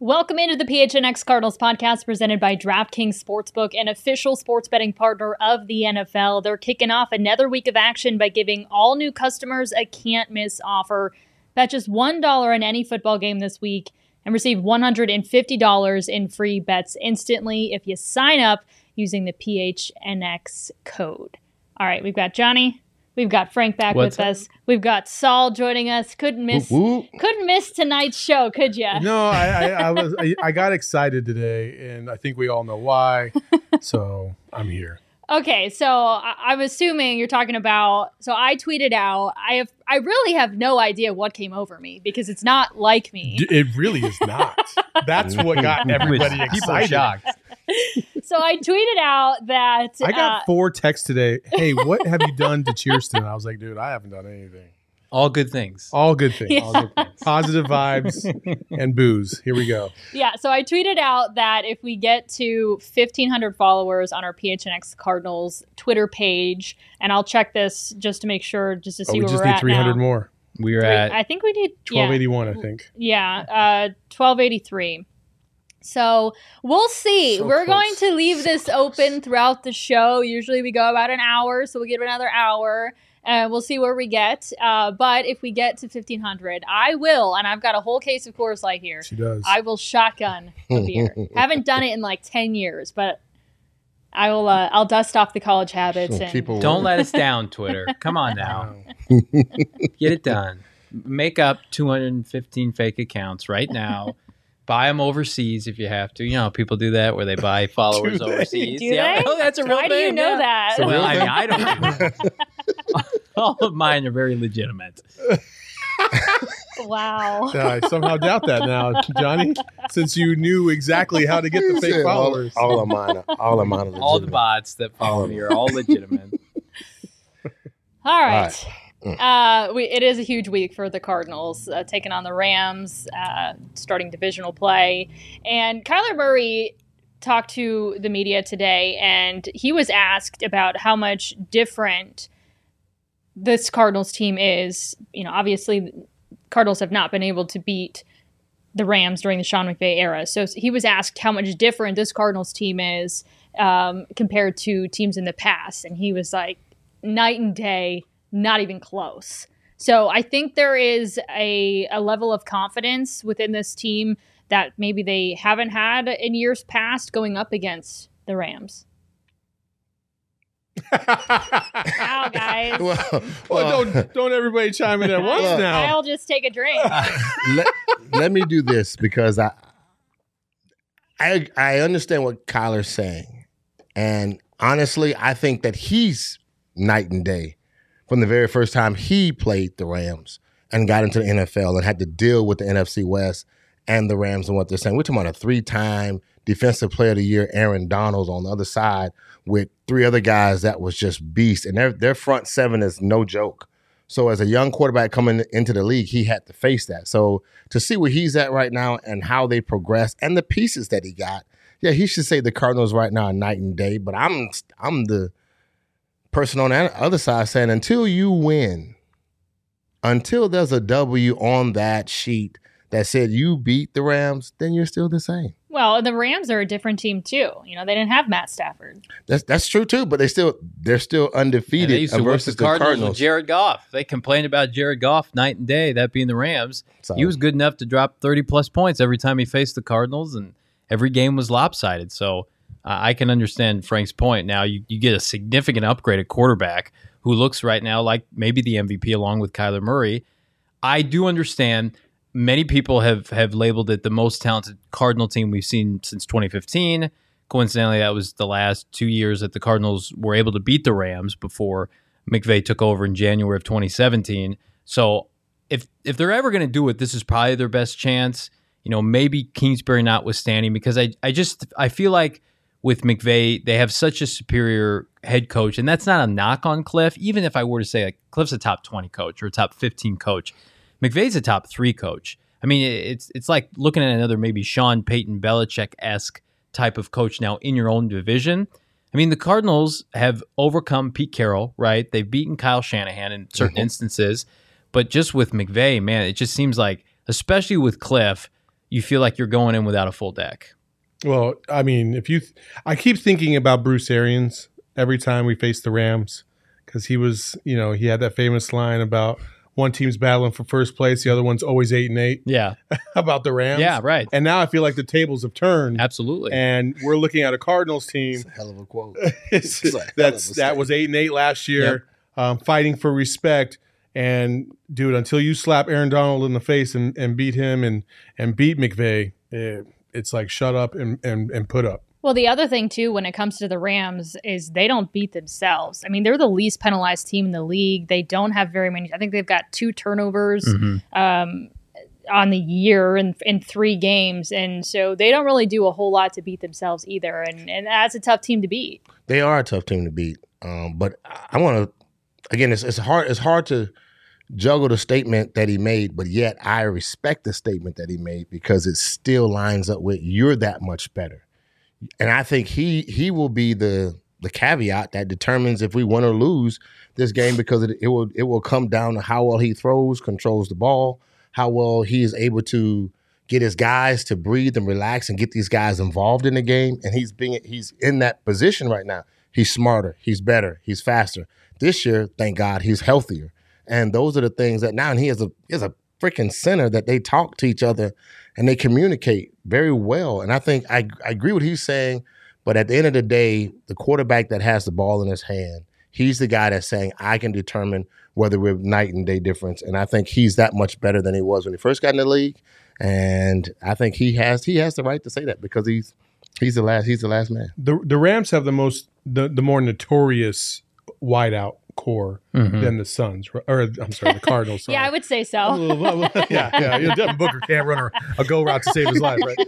Welcome into the PHNX Cardinals podcast presented by DraftKings Sportsbook, an official sports betting partner of the NFL. They're kicking off another week of action by giving all new customers a can't-miss offer. Bet just $1 on any football game this week and receive $150 in free bets instantly if you sign up using the PHNX code. All right, we've got Johnny. We've got Frank back with us. We've got Saul joining us. Couldn't miss tonight's show, could you? No, I got excited today, and I think we all know why. So I'm here. Okay, so I'm assuming you're talking about. So I tweeted out. I really have no idea what came over me because it's not like me. It really is not. That's what got everybody excited. People are shocked. So I tweeted out that I got 4 texts today. Hey, what have you done to Cheerston? I was like, dude, I haven't done anything. All good things. All good things. Yeah. All good things. Positive vibes and booze. Here we go. Yeah, so I tweeted out that if we get to 1,500 followers on our PHNX Cardinals Twitter page, and I'll check this just to make sure, just to see where we're at now. We just need 300 more. We're at. I think we need 1281. I think. Yeah, 1283. So we'll see. So We're close. going to leave this open throughout the show. Usually we go about an hour, so we'll give it another hour. And we'll see where we get. But if we get to 1,500, I will, and I've got a whole case of Coors Light here. She does. I will shotgun a beer. Haven't done it in like 10 years, but I will. I'll dust off the college habits. And Don't let us down, Twitter. Come on now. Get it done. Make up 215 fake accounts right now. Buy them overseas if you have to. You know, people do that where they buy followers overseas. Do they? Oh, that's a real Why thing. do you know yeah. that? Well, I mean, I don't do that. All of mine are very legitimate. Wow. I somehow doubt that now, Johnny, since you knew exactly how to get the fake followers. All of mine are legitimate. All the bots that follow me are all legitimate. All right. It is a huge week for the Cardinals, taking on the Rams, starting divisional play. And Kyler Murray talked to the media today, and he was asked about how much different this Cardinals team is. You know, obviously, Cardinals have not been able to beat the Rams during the Sean McVay era. So he was asked how much different this Cardinals team is compared to teams in the past. And he was like, night and day. Not even close. So I think there is a level of confidence within this team that maybe they haven't had in years past going up against the Rams. Wow, guys. Well, don't everybody chime in at once now. I'll just take a drink. let me do this because I understand what Kyler's saying. And honestly, I think that he's night and day from the very first time he played the Rams and got into the NFL and had to deal with the NFC West and the Rams and what they're saying. We're talking about a 3-time Defensive Player of the Year, Aaron Donald, on the other side with 3 other guys that was just beast. And their front 7 is no joke. So as a young quarterback coming into the league, he had to face that. So to see where he's at right now and how they progress and the pieces that he got, yeah, he should say the Cardinals right now are night and day. But I'm the person on the other side saying until you win, until there's a W on that sheet that said you beat the Rams, then you're still the same. Well, and the Rams are a different team too. You know, they didn't have Matt Stafford. That's true too, but they're still undefeated They used to work versus the Cardinals with Jared Goff. They complained about Jared Goff night and day, that being the Rams. So, he was good enough to drop 30-plus points every time he faced the Cardinals, and every game was lopsided. So I can understand Frank's point. Now, you get a significant upgrade at quarterback who looks right now like maybe the MVP along with Kyler Murray. I do understand many people have labeled it the most talented Cardinal team we've seen since 2015. Coincidentally, that was the last 2 years that the Cardinals were able to beat the Rams before McVay took over in January of 2017. So if they're ever going to do it, this is probably their best chance. You know, maybe Kingsbury notwithstanding, because I feel like with McVay, they have such a superior head coach, and that's not a knock on Cliff. Even if I were to say like Cliff's a top 20 coach or a top 15 coach, McVay's a top 3 coach. I mean, it's like looking at another maybe Sean Payton Belichick-esque type of coach now in your own division. I mean, the Cardinals have overcome Pete Carroll, right? They've beaten Kyle Shanahan in certain instances, but just with McVay, man, it just seems like, especially with Cliff, you feel like you're going in without a full deck. Well, I mean, I keep thinking about Bruce Arians every time we face the Rams, because he was, he had that famous line about one team's battling for first place, the other one's always 8-8. Yeah. About the Rams. Yeah, right. And now I feel like the tables have turned. Absolutely. And we're looking at a Cardinals team. It's a hell of a quote. That was 8-8 last year, fighting for respect. And dude, until you slap Aaron Donald in the face and beat him and beat McVay, it's like shut up and put up. Well, the other thing, too, when it comes to the Rams is they don't beat themselves. I mean, they're the least penalized team in the league. They don't have very many. I think they've got 2 turnovers on the year in 3 games. And so they don't really do a whole lot to beat themselves either. And that's a tough team to beat. They are a tough team to beat. But I want to, again, it's hard to juggle the statement that he made, but yet I respect the statement that he made because it still lines up with you're that much better. And I think he will be the caveat that determines if we win or lose this game, because it will come down to how well he throws, controls the ball, how well he is able to get his guys to breathe and relax and get these guys involved in the game. And he's in that position right now. He's smarter, he's better, he's faster. This year, thank God, he's healthier. And those are the things that now, and he has a freaking center that they talk to each other and they communicate very well. And I think I agree with what he's saying, but at the end of the day, the quarterback that has the ball in his hand, he's the guy that's saying, I can determine whether we're night and day difference. And I think he's that much better than he was when he first got in the league. And I think he has the right to say that because he's the last man. The Rams have the more notorious wideout core than the Suns, or I'm sorry, the Cardinals. Yeah, I would say so. yeah. Devin Booker can't run a go route to save his life, right?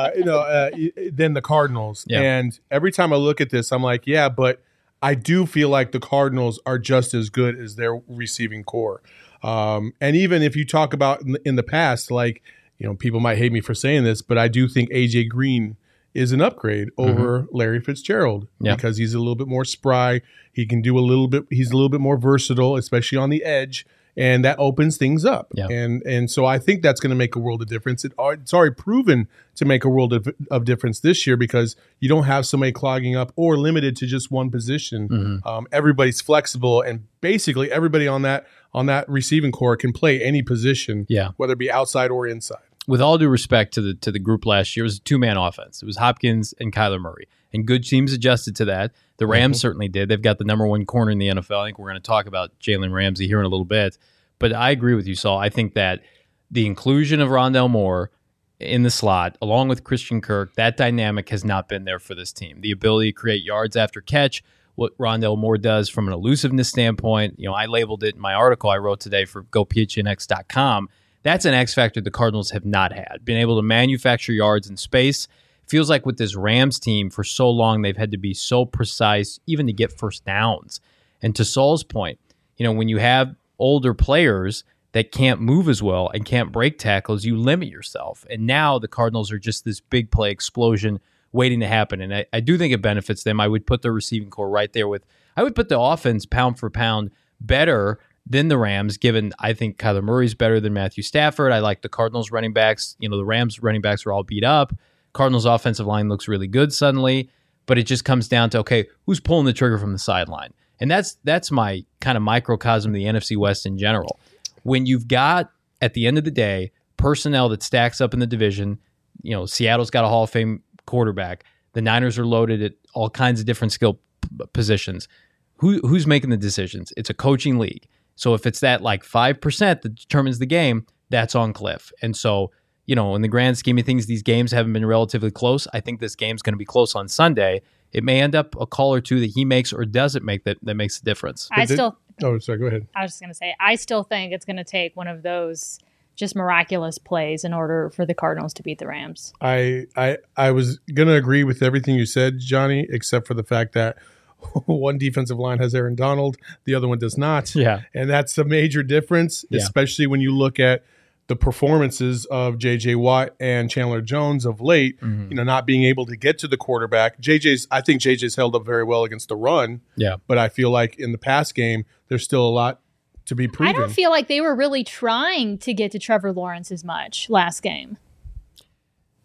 Than the Cardinals. Yeah. And every time I look at this, I'm like, yeah, but I do feel like the Cardinals are just as good as their receiving core. And even if you talk about in the past, like, people might hate me for saying this, but I do think AJ Green is an upgrade over Larry Fitzgerald because he's a little bit more spry. He can do he's a little bit more versatile, especially on the edge, and that opens things up. Yeah. And so I think that's going to make a world of difference. It's already proven to make a world of difference this year because you don't have somebody clogging up or limited to just one position. Everybody's flexible, and basically everybody on that receiving core can play any position, whether it be outside or inside. With all due respect to the group last year, it was a 2-man offense. It was Hopkins and Kyler Murray. And good teams adjusted to that. The Rams certainly did. They've got the number 1 corner in the NFL. I think we're going to talk about Jalen Ramsey here in a little bit. But I agree with you, Saul. I think that the inclusion of Rondale Moore in the slot, along with Christian Kirk, that dynamic has not been there for this team. The ability to create yards after catch, what Rondale Moore does from an elusiveness standpoint. I labeled it in my article I wrote today for GoPHNX.com. That's an X factor the Cardinals have not had. Been able to manufacture yards in space. Feels like with this Rams team for so long, they've had to be so precise even to get first downs. And to Saul's point, when you have older players that can't move as well and can't break tackles, you limit yourself. And now the Cardinals are just this big play explosion waiting to happen. And I do think it benefits them. I would put the receiving core right there I would put the offense pound for pound better than the Rams, given I think Kyler Murray's better than Matthew Stafford. I like the Cardinals running backs. The Rams running backs are all beat up. Cardinals offensive line looks really good suddenly, but it just comes down to, okay, who's pulling the trigger from the sideline? And that's my kind of microcosm of the NFC West in general. When you've got, at the end of the day, personnel that stacks up in the division, Seattle's got a Hall of Fame quarterback. The Niners are loaded at all kinds of different skill positions. Who's making the decisions? It's a coaching league. So if it's that like 5% that determines the game, that's on Cliff. And so, in the grand scheme of things, these games haven't been relatively close. I think this game's going to be close on Sunday. It may end up a call or two that he makes or doesn't make that makes the difference. Oh, sorry, go ahead. I was just going to say, I still think it's going to take one of those just miraculous plays in order for the Cardinals to beat the Rams. I was going to agree with everything you said, Johnny, except for the fact that one defensive line has Aaron Donald, the other one does not. Yeah. And that's a major difference, especially when you look at the performances of J.J. Watt and Chandler Jones of late, not being able to get to the quarterback. I think J.J.'s held up very well against the run. Yeah. But I feel like in the pass game, there's still a lot to be proven. I don't feel like they were really trying to get to Trevor Lawrence as much last game.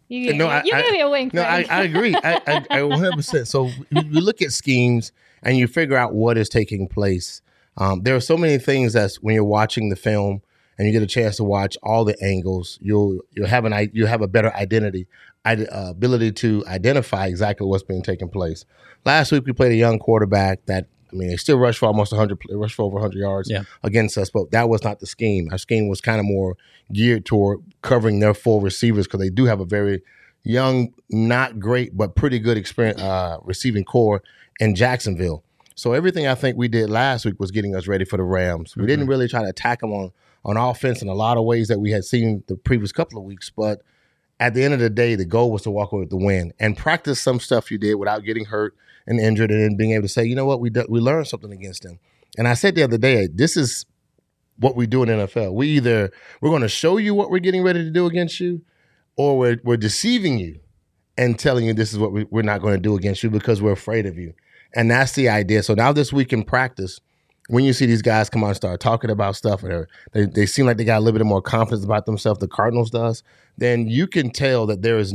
You No, give me a wink. No, Frank. I agree. I 100%. So you look at schemes and you figure out what is taking place. There are so many things that when you're watching the film and you get a chance to watch all the angles, you'll have a better ability to identify exactly what's being taken place. Last week we played a young quarterback that, they still rushed for almost 100, rushed for over 100 yards against us, but that was not the scheme. Our scheme was kind of more geared toward covering their full receivers because they do have a very young, not great, but pretty good experience receiving core in Jacksonville. So everything I think we did last week was getting us ready for the Rams. We didn't really try to attack them on offense in a lot of ways that we had seen the previous couple of weeks, but at the end of the day, the goal was to walk away with the win and practice some stuff you did without getting hurt and injured, and then being able to say, you know what, we learned something against them. And I said the other day, this is what we do in NFL. We're going to show you what we're getting ready to do against you, or we're deceiving you and telling you this is what we're not going to do against you because we're afraid of you. And that's the idea. So now this week in practice, when you see these guys come out and start talking about stuff, or they seem like they got a little bit more confidence about themselves, the Cardinals does, then you can tell that there's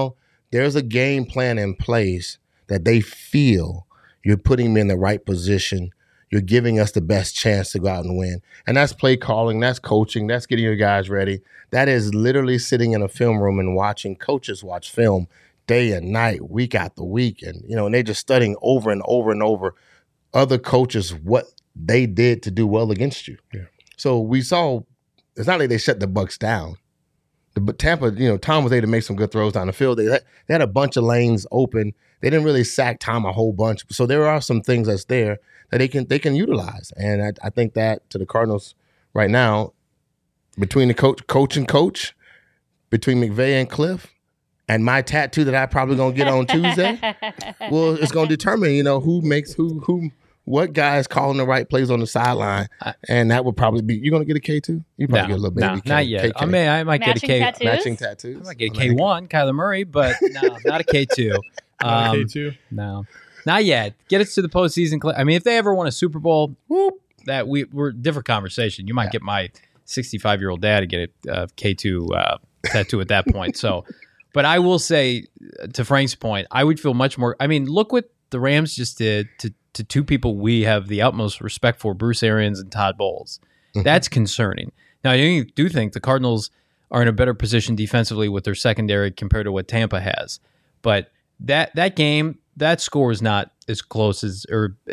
a game plan in place that they feel you're putting them in the right position. You're giving us the best chance to go out and win. And that's play calling, that's coaching, that's getting your guys ready. That is literally sitting in a film room and watching coaches watch film day and night, week after week. And, and they're just studying over and over and over other coaches, what they did to do well against you. Yeah. So we saw, it's not like they shut the Bucs down. But Tampa, Tom was able to make some good throws down the field. They had a bunch of lanes open. They didn't really sack Tom a whole bunch. So there are some things that's there that they can utilize. And I think that to the Cardinals right now, between the coach, between McVay and Cliff, and my tattoo that I probably gonna get on Tuesday, well, it's gonna determine, who makes who. What guy is calling the right plays on the sideline? And that would probably be, you're going to get a K2? You probably get a little baby K. Not yet. KK. I might get a K. Tattoos? Matching tattoos? I might get a K1, Kyler Murray, but no, not a K2. Not a K2? No, not yet. Get us to the postseason. If they ever won a Super Bowl, that we're different conversation. You might get my 65-year-old dad to get a K2 tattoo at that point. So, but I will say, to Frank's point, I would feel much more. Look what the Rams just did to two people we have the utmost respect for, Bruce Arians and Todd Bowles. That's concerning. Now, I do think the Cardinals are in a better position defensively with their secondary compared to what Tampa has. But that game, that score is not as close as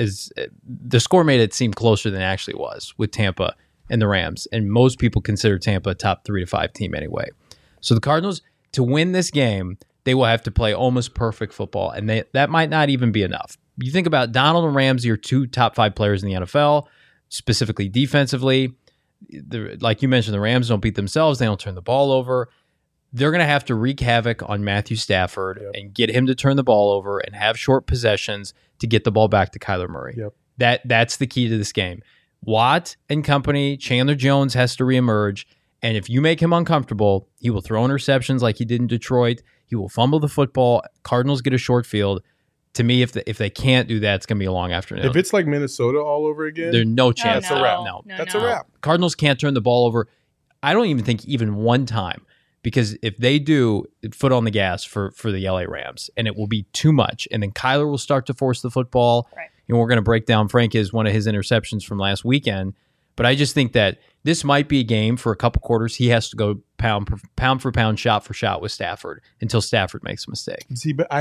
the score made it seem closer than it actually was with Tampa and the Rams. And most people consider Tampa a top 3 to 5 team anyway. So the Cardinals, to win this game, they will have to play almost perfect football, and that might not even be enough. You think about Donald and Ramsey are 2 top 5 players in the NFL, specifically defensively. Like you mentioned, the Rams don't beat themselves. They don't turn the ball over. They're going to have to wreak havoc on Matthew Stafford and get him to turn the ball over and have short possessions to get the ball back to Kyler Murray. That's the key to this game. Watt and company, Chandler Jones has to reemerge, and if you make him uncomfortable, he will throw interceptions like he did in Detroit. He will fumble the football. Cardinals get a short field. To me, if they can't do that, it's going to be a long afternoon. If it's like Minnesota all over again, there's no chance. That's a wrap. No, that's a wrap. Cardinals can't turn the ball over. I don't even think even one time, because if they do, foot on the gas for the LA Rams, and it will be too much. And then Kyler will start to force the football. Right. And we're going to break down one of his interceptions from last weekend. But I just think that this might be a game for a couple quarters. He has to go pound for pound, shot for shot with Stafford until Stafford makes a mistake. See, but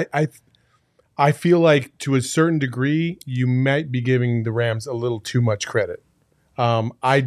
I feel like to a certain degree, you might be giving the Rams a little too much credit. I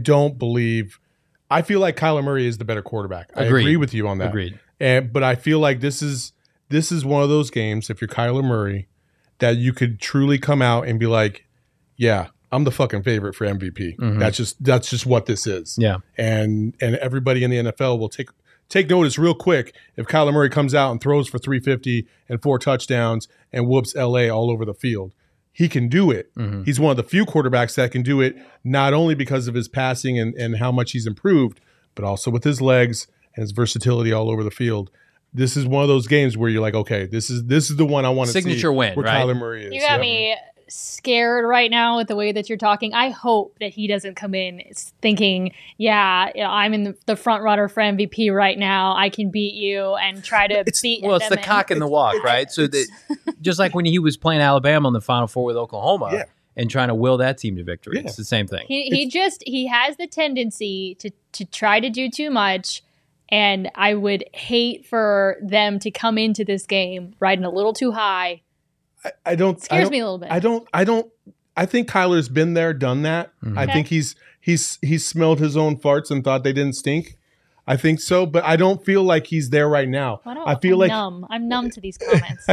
feel like Kyler Murray is the better quarterback. I agree with you on that. Agreed. But I feel like this is one of those games, if you're Kyler Murray, that you could truly come out and be like, yeah, I'm the fucking favorite for MVP. Mm-hmm. That's just what this is. Yeah. And everybody in the NFL will take notice real quick if Kyler Murray comes out and throws for 350 and 4 touchdowns and whoops LA all over the field. He can do it. Mm-hmm. He's one of the few quarterbacks that can do it, not only because of his passing and how much he's improved, but also with his legs and his versatility all over the field. This is one of those games where you're like, okay, this is the one I want to see. Signature win, where right? Kyler Murray is. You got me scared right now with the way that you're talking. I hope that he doesn't come in thinking, yeah, I'm in the front runner for MVP right now. I can beat you and try to beat them. Well, it's the cock and the walk, right? So just like when he was playing Alabama in the Final Four with Oklahoma and trying to will that team to victory. It's the same thing. He has the tendency to try to do too much. And I would hate for them to come into this game riding a little too high. I don't. Scares me a little bit. I don't. I think Kyler's been there, done that. Mm-hmm. I think he's smelled his own farts and thought they didn't stink. I think so, but I don't feel like he's there right now. I feel like numb. I'm numb to these comments.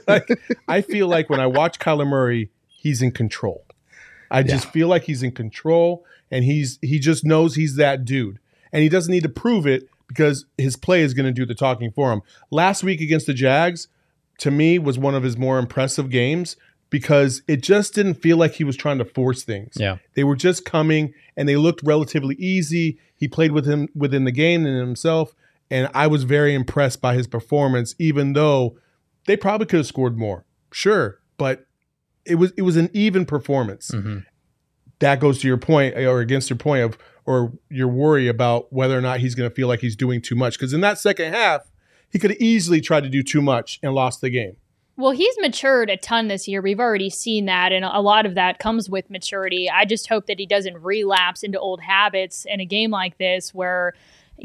I feel like when I watch Kyler Murray, he's in control. I just feel like he's in control, and he just knows he's that dude, and he doesn't need to prove it, because his play is going to do the talking for him. Last week against the Jags, to me, was one of his more impressive games because it just didn't feel like he was trying to force things. Yeah. They were just coming, and they looked relatively easy. He played with him within the game and himself, and I was very impressed by his performance, even though they probably could have scored more. Sure, but it was an even performance. Mm-hmm. That goes to your point, or against your point of, or your worry about whether or not he's going to feel like he's doing too much. Because in that second half, he could have easily tried to do too much and lost the game. Well, he's matured a ton this year. We've already seen that, and a lot of that comes with maturity. I just hope that he doesn't relapse into old habits in a game like this where,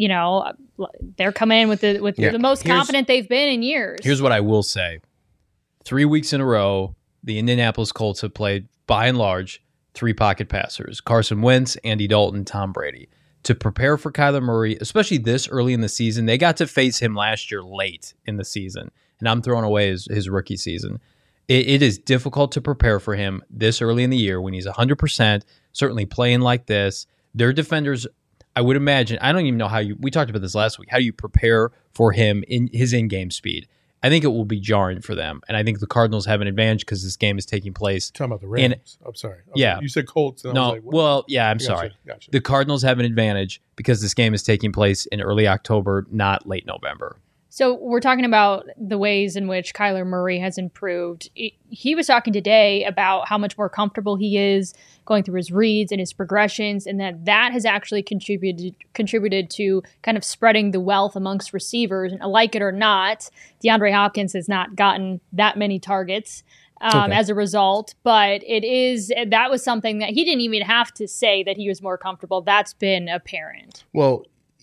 they're coming in with the most confident they've been in years. Here's what I will say. 3 weeks in a row, the Indianapolis Colts have played, by and large, 3 pocket passers: Carson Wentz, Andy Dalton, Tom Brady. To prepare for Kyler Murray, especially this early in the season, they got to face him last year late in the season, and I'm throwing away his rookie season. It is difficult to prepare for him this early in the year when he's 100%, certainly playing like this. Their defenders, I would imagine, I don't even know we talked about this last week, how you prepare for him in his in-game speed. I think it will be jarring for them, and I think the Cardinals have an advantage because this game is taking place. You're talking about the Rams. I'm sorry. Yeah. You said Colts. And no, I was like, what? Well, yeah, I'm sorry. Gotcha. The Cardinals have an advantage because this game is taking place in early October, not late November. So we're talking about the ways in which Kyler Murray has improved. He was talking today about how much more comfortable he is going through his reads and his progressions, and that has actually contributed to kind of spreading the wealth amongst receivers. And like it or not, DeAndre Hopkins has not gotten that many targets as a result, but that was something that he didn't even have to say that he was more comfortable. That's been apparent. Well,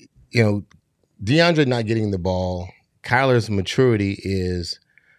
DeAndre not getting the ball, Kyler's maturity is,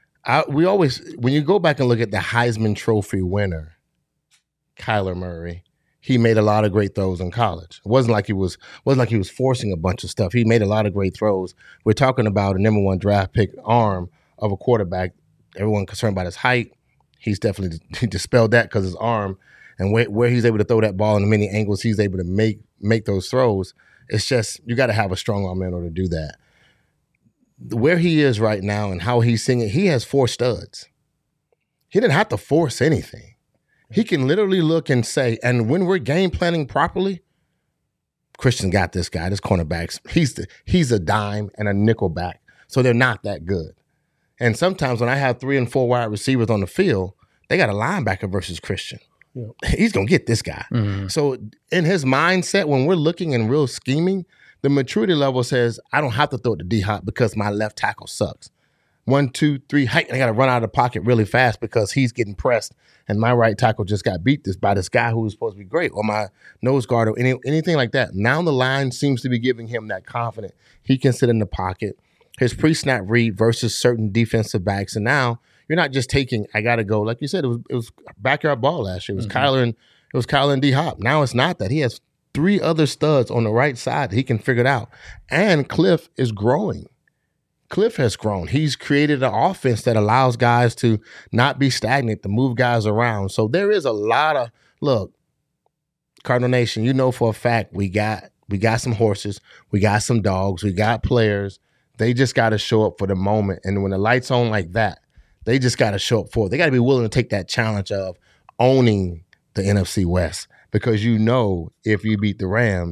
when you go back and look at the Heisman Trophy winner, Kyler Murray, he made a lot of great throws in college. It wasn't like he was forcing a bunch of stuff. He made a lot of great throws. We're talking about a number 1 draft pick arm of a quarterback. Everyone concerned about his height. He dispelled that because his arm and where he's able to throw that ball in the many angles he's able to make those throws. It's just, you got to have a strong arm in order to do that. Where he is right now and how he's singing, he has 4 studs. He didn't have to force anything. He can literally look and say, and when we're game planning properly, Christian got this guy, this cornerbacks. He's a dime and a nickel back, so they're not that good. And sometimes when I have 3 and 4 wide receivers on the field, they got a linebacker versus Christian. Yep. He's going to get this guy. Mm-hmm. So in his mindset, when we're looking and real scheming, the maturity level says, I don't have to throw it to D-Hop because my left tackle sucks. 1, 2, 3, height, I got to run out of the pocket really fast because he's getting pressed and my right tackle just got beat by this guy who was supposed to be great, or my nose guard, or anything like that. Now the line seems to be giving him that confidence. He can sit in the pocket. His pre-snap read versus certain defensive backs. And now you're not just taking, I got to go. Like you said, it was backyard ball last year. It was Kyler and D-Hop. Now it's not that. He has 3 other studs on the right side that he can figure it out. And Cliff is growing. Cliff has grown. He's created an offense that allows guys to not be stagnant, to move guys around. So there is a lot of, look, Cardinal Nation, you know for a fact we got some horses, we got some dogs, we got players. They just got to show up for the moment. And when the light's on like that, they just got to show up for it. They got to be willing to take that challenge of owning the NFC West, because if you beat the Rams,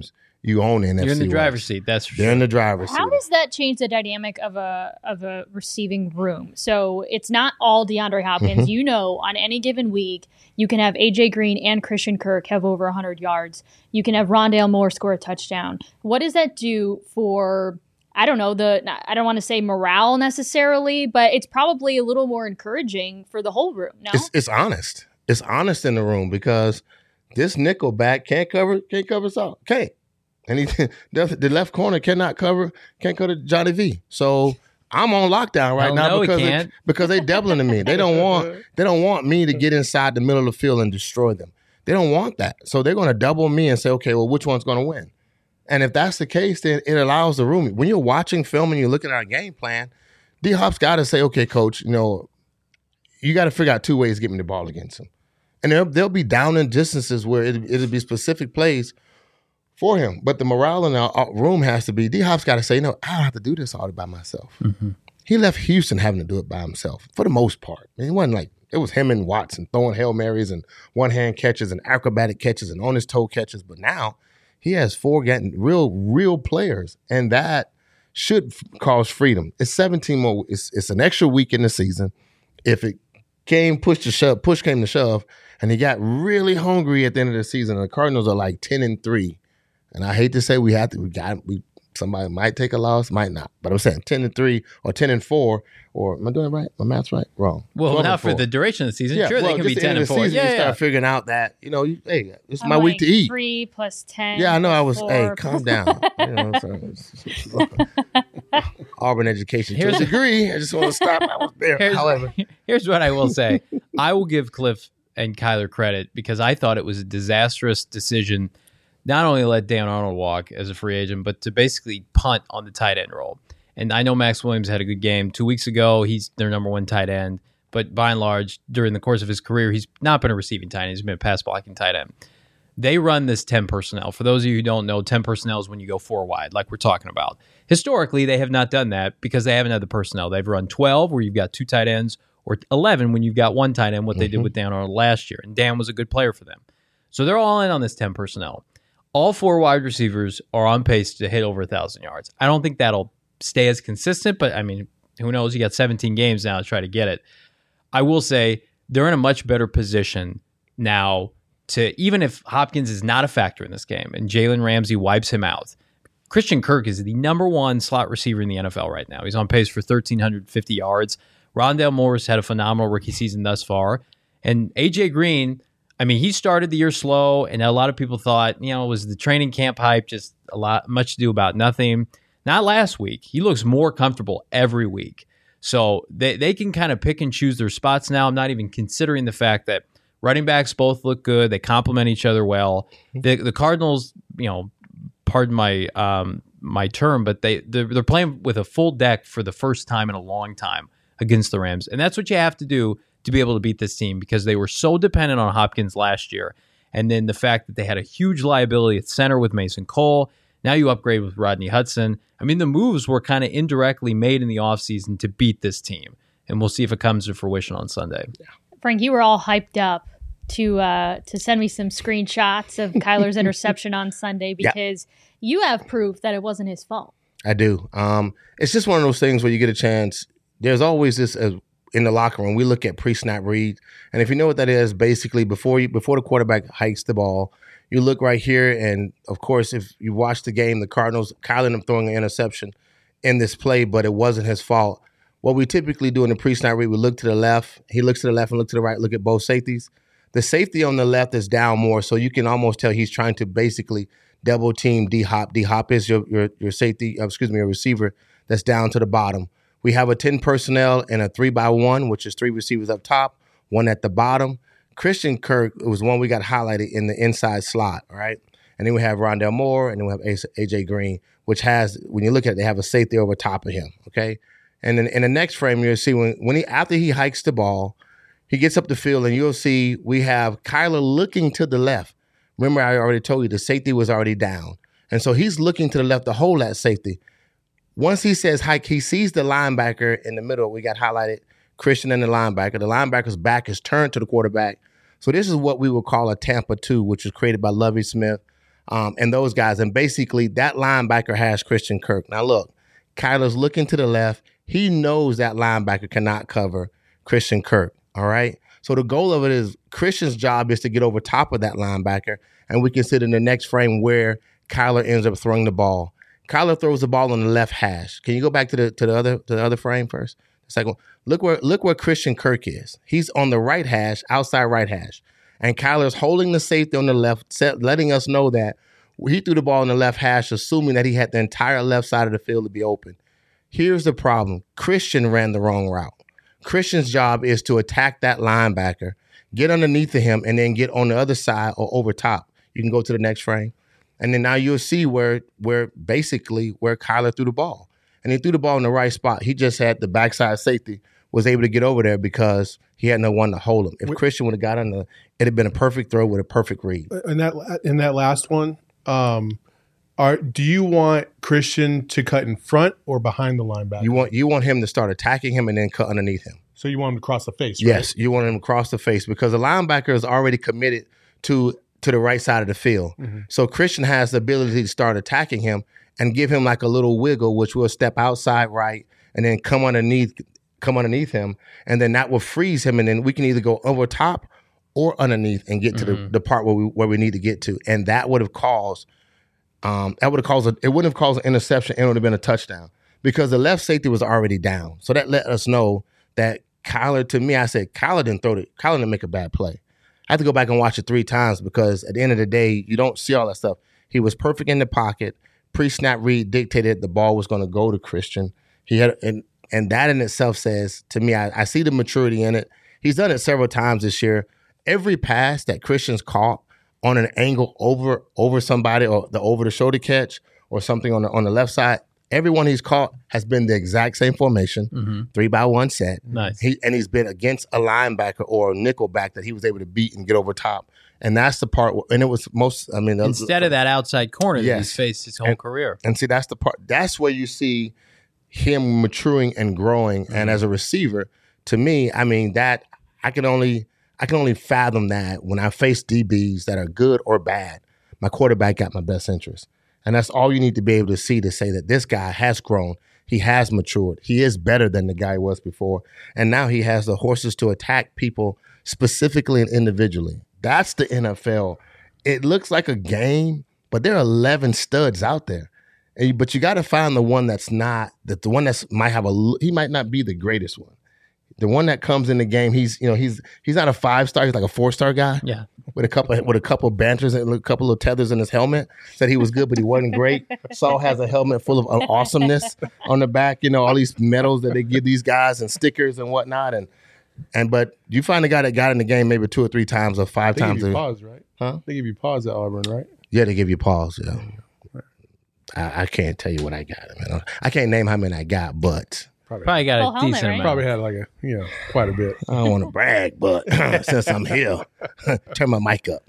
you own NFC You're in the driver's West. seat. That's for They're sure. in the driver's How seat. does that change the dynamic of a receiving room? So it's not all DeAndre Hopkins. Mm-hmm. On any given week, you can have AJ Green and Christian Kirk have over 100 yards. You can have Rondale Moore score a touchdown. What does that do for, I don't know, I don't want to say morale necessarily, but it's probably a little more encouraging for the whole room, no? It's honest. It's honest in the room because this nickel back can't cover us all. Can't. And the left corner can't cover Johnny V. So I'm on lockdown right now because they doubling to me. They don't want me to get inside the middle of the field and destroy them. They don't want that. So they're going to double me and say, okay, well, which one's going to win? And if that's the case, then it allows the room. When you're watching film and you're looking at our game plan, D-Hop's got to say, okay, coach, you got to figure out two ways to get me the ball against him. And they'll be down in distances where it'll be specific plays for him. But the morale in the room has to be, D-Hop's got to say, no, I don't have to do this all by myself. Mm-hmm. He left Houston having to do it by himself for the most part. I mean, it wasn't like, it was him and Watson throwing Hail Marys and one-hand catches and acrobatic catches and on-his-toe catches. But now he has 4 getting real players, and that should cause freedom. It's 17 more. It's an extra week in the season. If it push came to shove, and he got really hungry at the end of the season, and the Cardinals are like 10-3. And I hate to say somebody might take a loss, might not. But I'm saying 10-3 or 10-4, or am I doing it right? My math's right? Wrong. Well, not for the duration of the season. Yeah, sure, they can be 10-4. You start figuring out that, hey, it's my week to eat. 3 plus 10. Yeah, I know. I was, 4. hey, calm down. Auburn education to a degree. I just want to stop. I was there. However, here's what I will say. I will give Cliff and Kyler credit because I thought it was a disastrous decision not only to let Dan Arnold walk as a free agent, but to basically punt on the tight end role. And I know Max Williams had a good game 2 weeks ago. He's their number 1 tight end. But by and large, during the course of his career, he's not been a receiving tight end. He's been a pass blocking tight end. They run this 10 personnel. For those of you who don't know, 10 personnel is when you go 4 wide, like we're talking about. Historically, they have not done that because they haven't had the personnel. They've run 12, where you've got 2 tight ends, or 11 when you've got 1 tight end, what they did with Dan Arnold last year. And Dan was a good player for them. So they're all in on this 10 personnel. All 4 wide receivers are on pace to hit over 1,000 yards. I don't think that'll stay as consistent, but I mean, who knows? You got 17 games now to try to get it. I will say they're in a much better position now to, even if Hopkins is not a factor in this game and Jalen Ramsey wipes him out, Christian Kirk is the number 1 slot receiver in the NFL right now. He's on pace for 1,350 yards. Rondale Moore had a phenomenal rookie season thus far. And AJ Green, I mean, he started the year slow, and a lot of people thought, it was the training camp hype, just much to do about nothing. Not last week. He looks more comfortable every week. So they can kind of pick and choose their spots now. I'm not even considering the fact that running backs both look good. They complement each other well. The Cardinals, pardon my term, but they're playing with a full deck for the first time in a long time against the Rams. And that's what you have to do to be able to beat this team because they were so dependent on Hopkins last year. And then the fact that they had a huge liability at center with Mason Cole. Now you upgrade with Rodney Hudson. I mean, the moves were kind of indirectly made in the offseason to beat this team. And we'll see if it comes to fruition on Sunday. Frank, you were all hyped up to send me some screenshots of Kyler's interception on Sunday because you have proof that it wasn't his fault. I do. It's just one of those things where you get a chance. There's always this in the locker room. We look at pre-snap read, and if you know what that is, basically before the quarterback hikes the ball, you look right here, and of course, if you watch the game, the Cardinals, Kyler ended up throwing an interception in this play, but it wasn't his fault. What we typically do in the pre-snap read, we look to the left. He looks to the left and look to the right. Look at both safeties. The safety on the left is down more, so you can almost tell he's trying to basically double team D-Hop. D-Hop is your safety, your receiver that's down to the bottom. We have a 10 personnel and a 3-by-1, which is 3 receivers up top, 1 at the bottom. Christian Kirk was one we got highlighted in the inside slot, all right? And then we have Rondale Moore, and then we have AJ Green, which has, when you look at it, they have a safety over top of him, okay? And then in the next frame, you'll see after he hikes the ball, he gets up the field, and you'll see we have Kyler looking to the left. Remember, I already told you the safety was already down. And so he's looking to the left to hold that safety. Once he says hike, he sees the linebacker in the middle. We got highlighted Christian and the linebacker. The linebacker's back is turned to the quarterback. So this is what we would call a Tampa 2, which was created by Lovie Smith. and those guys. And basically, that linebacker has Christian Kirk. Now, look, Kyler's looking to the left. He knows that linebacker cannot cover Christian Kirk, all right? So the goal of it is Christian's job is to get over top of that linebacker, and we can sit in the next frame where Kyler ends up throwing the ball. Kyler throws the ball on the left hash. Can you go back to the other frame first? The second one. Look where Christian Kirk is. He's on the right hash, outside right hash. And Kyler's holding the safety on the left, letting us know that he threw the ball on the left hash, assuming that he had the entire left side of the field to be open. Here's the problem. Christian ran the wrong route. Christian's job is to attack that linebacker, get underneath of him, and then get on the other side or over top. You can go to the next frame. And then now you'll see where Kyler threw the ball. And he threw the ball in the right spot. He just had the backside safety, was able to get over there because he had no one to hold him. If Christian would have got under, it'd have been a perfect throw with a perfect read. In that last one, do you want Christian to cut in front or behind the linebacker? You want him to start attacking him and then cut underneath him. So you want him to cross the face, right? Yes, you want him to cross the face because the linebacker is already committed to the right side of the field. Mm-hmm. So Christian has the ability to start attacking him and give him like a little wiggle, which will step outside right and then come underneath him, and then that will freeze him, and then we can either go over top or underneath and get to the part where we need to get to, and that would have caused it wouldn't have caused an interception, and it would have been a touchdown because the left safety was already down. So that let us know that Kyler, to me, I said Kyler didn't make a bad play. I had to go back and watch it 3 times because at the end of the day, you don't see all that stuff. He was perfect in the pocket. Pre-snap read dictated the ball was going to go to Christian. He had and that in itself says to me, I see the maturity in it. He's done it several times this year. Every pass that Christian's caught on an angle over somebody or the over the shoulder catch or something on the left side, everyone he's caught has been the exact same formation, 3-by-1 set. Nice. He's been against a linebacker or a nickel back that he was able to beat and get over top. And that's the part, and it was instead of that outside corner that he's faced his whole career. And see, that's the part, that's where you see him maturing and growing. And as a receiver, to me, that I can only fathom that when I face DBs that are good or bad, my quarterback got my best interest. And that's all you need to be able to see to say that this guy has grown. He has matured. He is better than the guy he was before. And now he has the horses to attack people specifically and individually. That's the NFL. It looks like a game, but there are 11 studs out there. But you got to find the one that's not, the one that's he might not be the greatest one. The one that comes in the game, he's not a 5-star, he's like a 4-star guy. Yeah. With a couple banters and a couple of tethers in his helmet. Said he was good, but he wasn't great. Saul has a helmet full of awesomeness on the back, all these medals that they give these guys and stickers and whatnot. But you find a guy that got in the game maybe 2 or 3 times or 5 times. They give you pause, right? Huh? They give you pause at Auburn, right? Yeah, they give you pause, yeah. I can't tell you what I got. Man. I can't name how many I got, but probably got a decent amount. Probably had like quite a bit. I don't want to brag, but since I'm here, turn my mic up.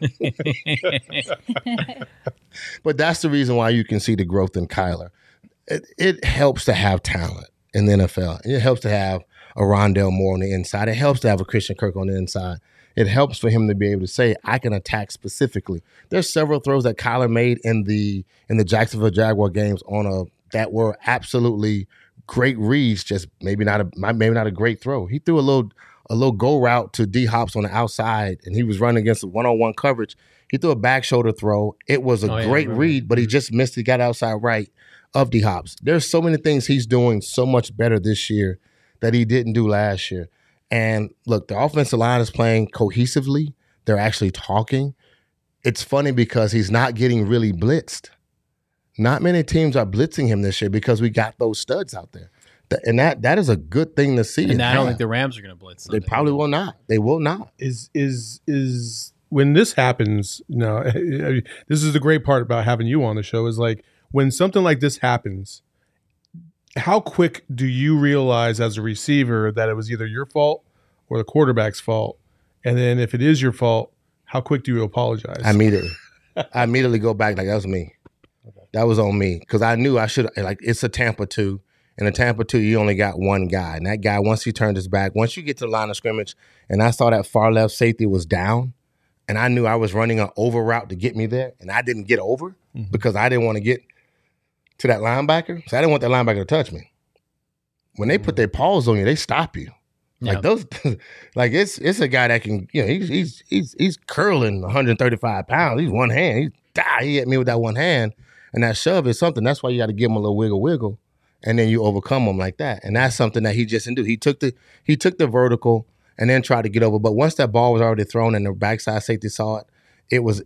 But that's the reason why you can see the growth in Kyler. It helps to have talent in the NFL. It helps to have a Rondale Moore on the inside. It helps to have a Christian Kirk on the inside. It helps for him to be able to say, I can attack specifically. There's several throws that Kyler made in the Jacksonville Jaguar games that were absolutely great reads, just maybe not a great throw. He threw a little go route to D Hops on the outside, and he was running against a one-on-one coverage. He threw a back shoulder throw. It was a great read, but he just missed it, got outside right of D Hops. There's so many things he's doing so much better this year that he didn't do last year. And look, the offensive line is playing cohesively. They're actually talking. It's funny because he's not getting really blitzed. Not many teams are blitzing him this year because we got those studs out there. And that is a good thing to see. And I don't think the Rams are going to blitz. They probably will not. They will not. Is when this happens, this is the great part about having you on the show is like when something like this happens, how quick do you realize as a receiver that it was either your fault or the quarterback's fault? And then if it is your fault, how quick do you apologize? Immediately. I immediately go back like that was me. That was on me because I knew I should, it's a Tampa 2. In a Tampa 2, you only got one guy. And that guy, once he turned his back, once you get to the line of scrimmage, and I saw that far left safety was down, and I knew I was running an over route to get me there, and I didn't get over because I didn't want to get to that linebacker. So I didn't want that linebacker to touch me. When they put their paws on you, they stop you. Like those, like it's a guy that can, he's curling 135 pounds. He's one hand. He hit me with that one hand, and that shove is something. That's why you got to give him a little wiggle, and then you overcome him like that. And that's something that he just didn't do. He took the vertical and then tried to get over. But once that ball was already thrown and the backside safety saw it, it was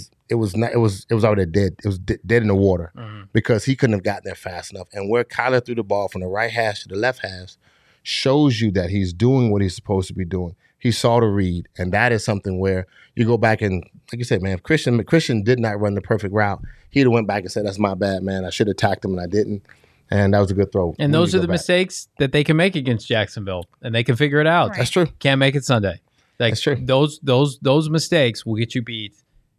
already dead. It was dead in the water because he couldn't have gotten there fast enough. And where Kyler threw the ball from the right hash to the left hash shows you that he's doing what he's supposed to be doing. He saw the read, and that is something where you go back and, like you said, man, if Christian did not run the perfect route, he'd have went back and said, "That's my bad, man. I should have attacked him, and I didn't." And that was a good throw. And those are the mistakes that they can make against Jacksonville, and they can figure it out. Right. That's true. Can't make it Sunday. Like, That's true. Those mistakes will get you beat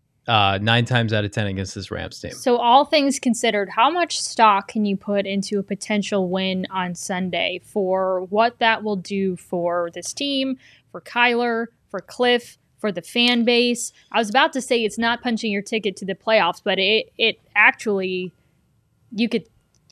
9 times out of 10 against this Rams team. So all things considered, how much stock can you put into a potential win on Sunday for what that will do for this team, for Kyler, for Cliff, for the fan base? I was about to say it's not punching your ticket to the playoffs, but it actually, you could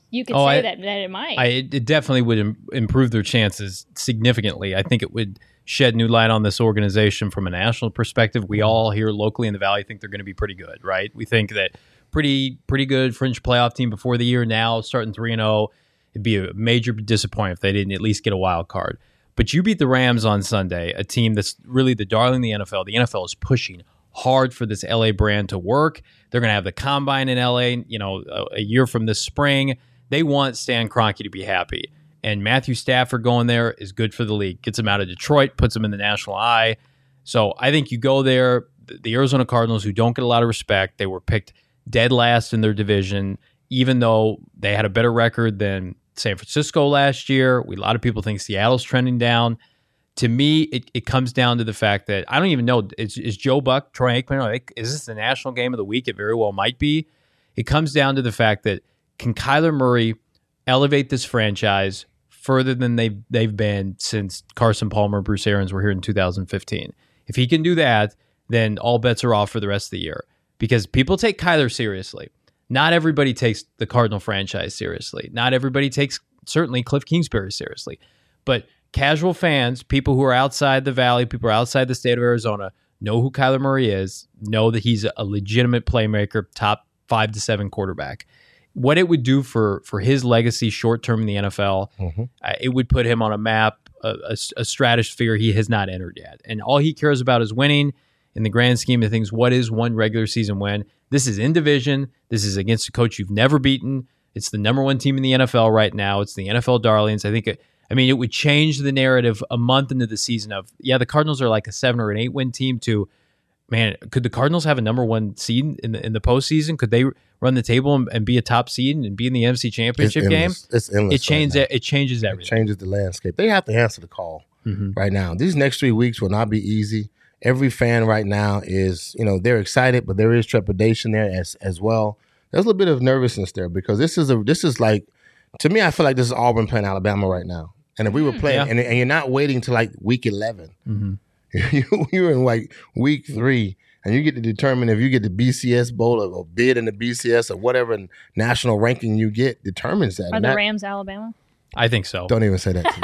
say that it might. It definitely would improve their chances significantly. I think it would shed new light on this organization from a national perspective. We all here locally in the Valley think they're going to be pretty good, right? We think that pretty good fringe playoff team before the year. Now starting 3-0, it'd be a major disappointment if they didn't at least get a wild card. But you beat the Rams on Sunday, a team that's really the darling of the NFL. The NFL is pushing hard for this LA brand to work. They're going to have the combine in LA, a year from this spring. They want Stan Kroenke to be happy. And Matthew Stafford going there is good for the league. Gets him out of Detroit, puts him in the national eye. So I think you go there. The Arizona Cardinals, who don't get a lot of respect, they were picked dead last in their division, even though they had a better record than San Francisco last year. A lot of people think Seattle's trending down. To me, it comes down to the fact that I don't even know, is Joe Buck, Troy Aikman, is this the national game of the week? It very well might be. It comes down to the fact that can Kyler Murray elevate this franchise further than they've been since Carson Palmer and Bruce Arians were here in 2015? If he can do that, then all bets are off for the rest of the year. Because people take Kyler seriously. Not everybody takes the Cardinal franchise seriously. Not everybody takes, certainly, Cliff Kingsbury seriously. But casual fans, people who are outside the Valley, people who are outside the state of Arizona, know who Kyler Murray is, know that he's a legitimate playmaker, top 5 to 7 quarterback. What it would do for his legacy short-term in the NFL, it would put him on a map, a stratosphere he has not entered yet. And all he cares about is winning. In the grand scheme of things, what is one regular season win? This is in division. This is against a coach you've never beaten. It's the number 1 team in the NFL right now. It's the NFL darlings. I think it would change the narrative a month into the season of, the Cardinals are like a 7 or an 8 win team to, man, could the Cardinals have a number 1 seed in the postseason? Could they run the table and be a top seed and be in the NFC Championship game? It's endless. It changes everything. It changes the landscape. They have to answer the call right now. These next 3 weeks will not be easy. Every fan right now is, they're excited, but there is trepidation there as well. There's a little bit of nervousness there because this is like, to me, I feel like this is Auburn playing Alabama right now. And if we were playing, and you're not waiting to like week 11, you're in like week 3, and you get to determine if you get the BCS Bowl or bid in the BCS or whatever national ranking you get determines that. Are the Rams Alabama? I think so. Don't even say that to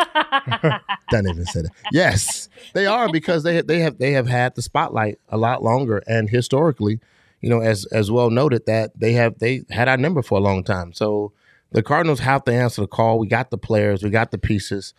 me. Don't even say that. Yes, they are, because they have had the spotlight a lot longer, and historically, as well noted, that they had our number for a long time. So the Cardinals have to answer the call. We got the players, we got the pieces,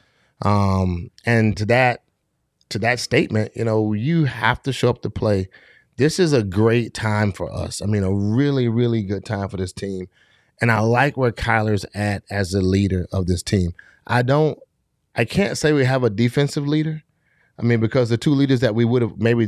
and to that statement, you have to show up to play. This is a great time for us. I mean, a really, really good time for this team. And I like where Kyler's at as the leader of this team. I can't say we have a defensive leader. I mean, because the two leaders that we would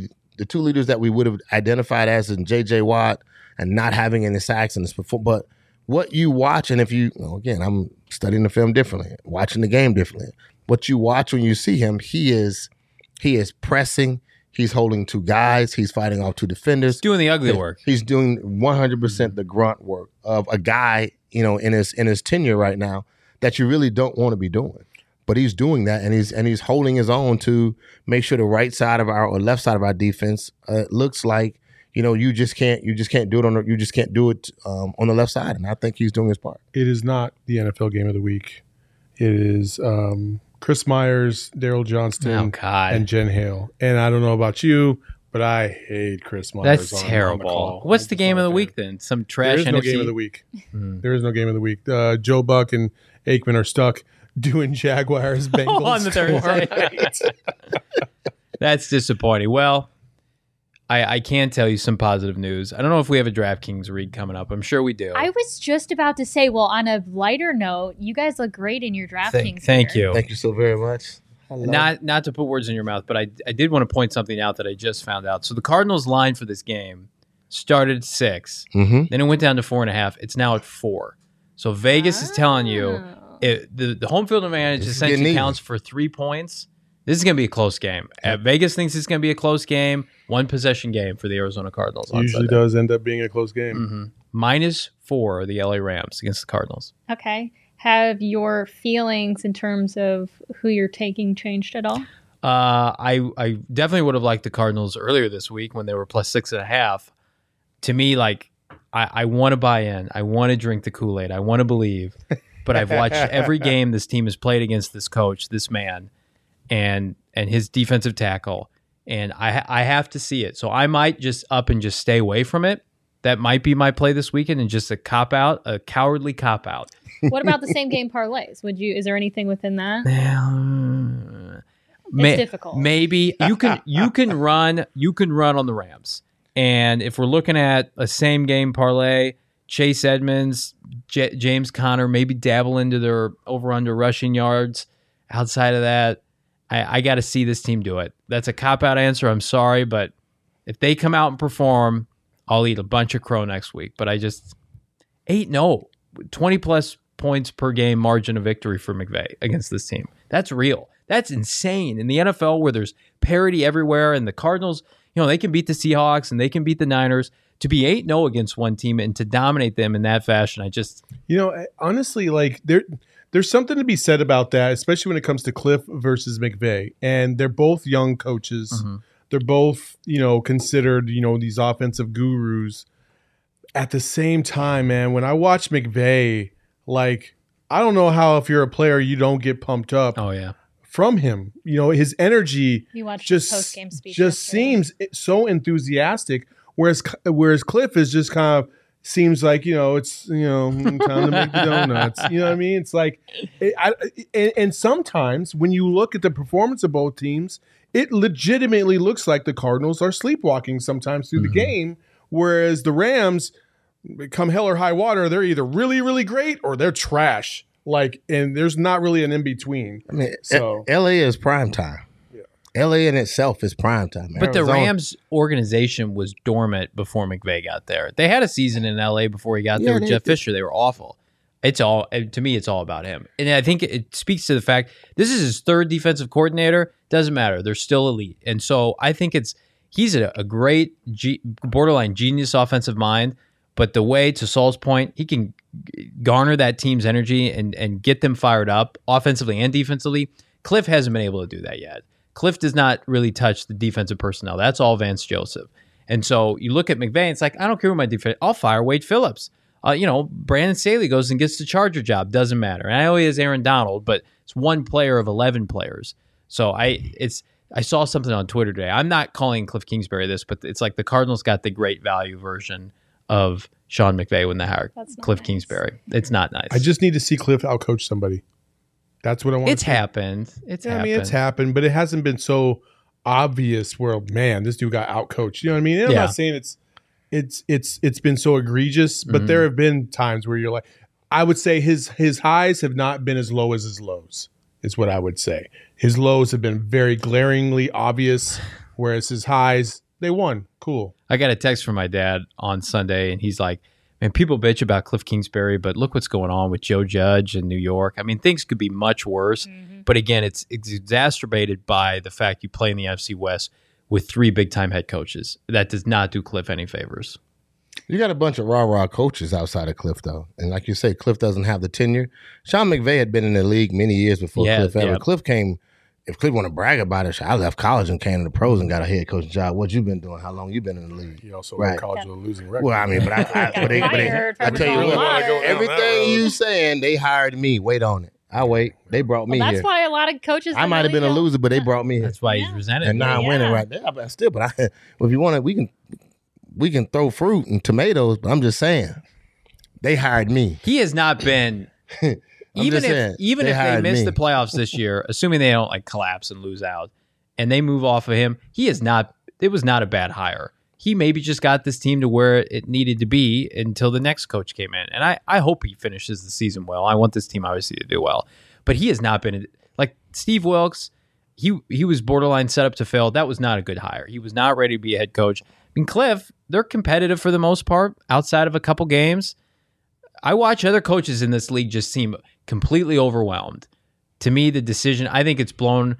have identified as in J.J. Watt and not having any sacks in this before. But what you watch, and if you, again, I'm studying the film differently, watching the game differently. What you watch when you see him, he is pressing. He's holding 2 guys. He's fighting off 2 defenders. He's doing the ugly work. He's doing 100% the grunt work of a guy, in his tenure right now that you really don't want to be doing. but he's doing that, and he's holding his own to make sure the right side of our or left side of our defense looks like you just can't do it on the left side, and I think he's doing his part. It is not the NFL game of the week. It is Chris Myers, Daryl Johnston, and Jen Hale. And I don't know about you, but I hate Chris Myers. That's terrible. What's the game of the week then? Some trash. There is no game of the week. There is no game of the week. Joe Buck and Aikman are stuck doing Jaguars Bengals on the Thursday. That's disappointing. Well, I can tell you some positive news. I don't know if we have a DraftKings read coming up. I'm sure we do. I was just about to say, well, on a lighter note, you guys look great in your DraftKings. Thank you. Thank you so very much. Not to put words in your mouth, but I did want to point something out that I just found out. So the Cardinals line for this game started at 6. Mm-hmm. Then it went down to 4.5. It's now at 4. So Vegas is telling you the home field advantage essentially counts for 3 points. This is going to be a close game. Vegas thinks it's going to be a close game, 1-possession game for the Arizona Cardinals. Usually does end up being a close game. Mm-hmm. -4 the LA Rams against the Cardinals. Okay. Have your feelings in terms of who you're taking changed at all? I definitely would have liked the Cardinals earlier this week when they were +6.5. To me, like I want to buy in. I want to drink the Kool-Aid. I want to believe. But I've watched every game this team has played against this coach, this man, and his defensive tackle, and I have to see it. So I might just up and just stay away from it. That might be my play this weekend, and just a cowardly cop out. What about the same game parlays? Is there anything within that? It's difficult. Maybe you can run on the Rams, and if we're looking at a same game parlay, Chase Edmonds, James Conner, maybe dabble into their over under rushing yards. Outside of that, I got to see this team do it. That's a cop-out answer. I'm sorry, but if they come out and perform, I'll eat a bunch of crow next week. But I just 8-0, 20-plus points per game margin of victory for McVay against this team. That's real. That's insane. In the NFL where there's parity everywhere and the Cardinals, they can beat the Seahawks and they can beat the Niners. To be 8-0 against one team and to dominate them in that fashion, I just... honestly, like there's something to be said about that, especially when it comes to Cliff versus McVay. And they're both young coaches. Mm-hmm. They're both, considered, these offensive gurus. At the same time, man, when I watch McVay, like, I don't know how if you're a player, you don't get pumped up. Oh, yeah. From him. His energy just seems so enthusiastic, whereas Cliff is just kind of seems like, it's, time to make the donuts. You know what I mean? It's like, and sometimes when you look at the performance of both teams, it legitimately looks like the Cardinals are sleepwalking sometimes through the game, whereas the Rams, come hell or high water, they're either really, really great or they're trash. Like, and there's not really an in-between. I mean, so LA is prime time. LA in itself is prime time. But the Rams organization was dormant before McVay got there. They had a season in LA before he got there with Jeff Fisher. They were awful. To me, it's all about him. And I think it speaks to the fact this is his third defensive coordinator. Doesn't matter. They're still elite. And so I think he's a great borderline genius offensive mind. But the way, to Saul's point, he can garner that team's energy and get them fired up offensively and defensively. Cliff hasn't been able to do that yet. Cliff does not really touch the defensive personnel. That's all Vance Joseph. And so you look at McVay, it's like, I don't care who my defense, I'll fire Wade Phillips. Brandon Staley goes and gets the Charger job. Doesn't matter. And I know he has Aaron Donald, but it's one player of 11 players. So I saw something on Twitter today. I'm not calling Cliff Kingsbury this, but it's like the Cardinals got the great value version of Sean McVay when they hired Cliff Kingsbury. It's not nice. I just need to see Cliff outcoach somebody. That's what I want. It's happened. It's happened, but it hasn't been so obvious where, man, this dude got outcoached. You know what I mean? And I'm not saying it's been so egregious, but there have been times where you're like, I would say his highs have not been as low as his lows, is what I would say. His lows have been very glaringly obvious, whereas his highs, they won. Cool. I got a text from my dad on Sunday, and he's like, man, people bitch about Cliff Kingsbury, but look what's going on with Joe Judge in New York. I mean, things could be much worse. Mm-hmm. But again, it's exacerbated by the fact you play in the NFC West with 3 big-time head coaches. That does not do Cliff any favors. You got a bunch of rah-rah coaches outside of Cliff, though. And like you say, Cliff doesn't have the tenure. Sean McVay had been in the league many years before Cliff ever. Cliff came, if Cliff want to brag about it, I left college and came to the pros and got a head coaching job. What you been doing? How long you been in the league? He also went to college with a losing record. Well, I mean, but I tell you what, everything you saying, they hired me. Wait on it. I wait. They brought me that's here. why a lot of coaches. I might have been a loser, but they brought me here. That's why he's resented. And now I'm winning right there. But still, if you want to, we can throw fruit and tomatoes, but I'm just saying, they hired me. He has not been, even if they miss the playoffs this year, assuming they don't like collapse and lose out, and they move off of him, it was not a bad hire. He maybe just got this team to where it needed to be until the next coach came in. And I hope he finishes the season well. I want this team obviously to do well. But he has not been, like Steve Wilkes, he was borderline set up to fail. That was not a good hire. He was not ready to be a head coach. I mean, Cliff, they're competitive for the most part outside of a couple games. I watch other coaches in this league just seem completely overwhelmed. To me, the decision, I think it's blown.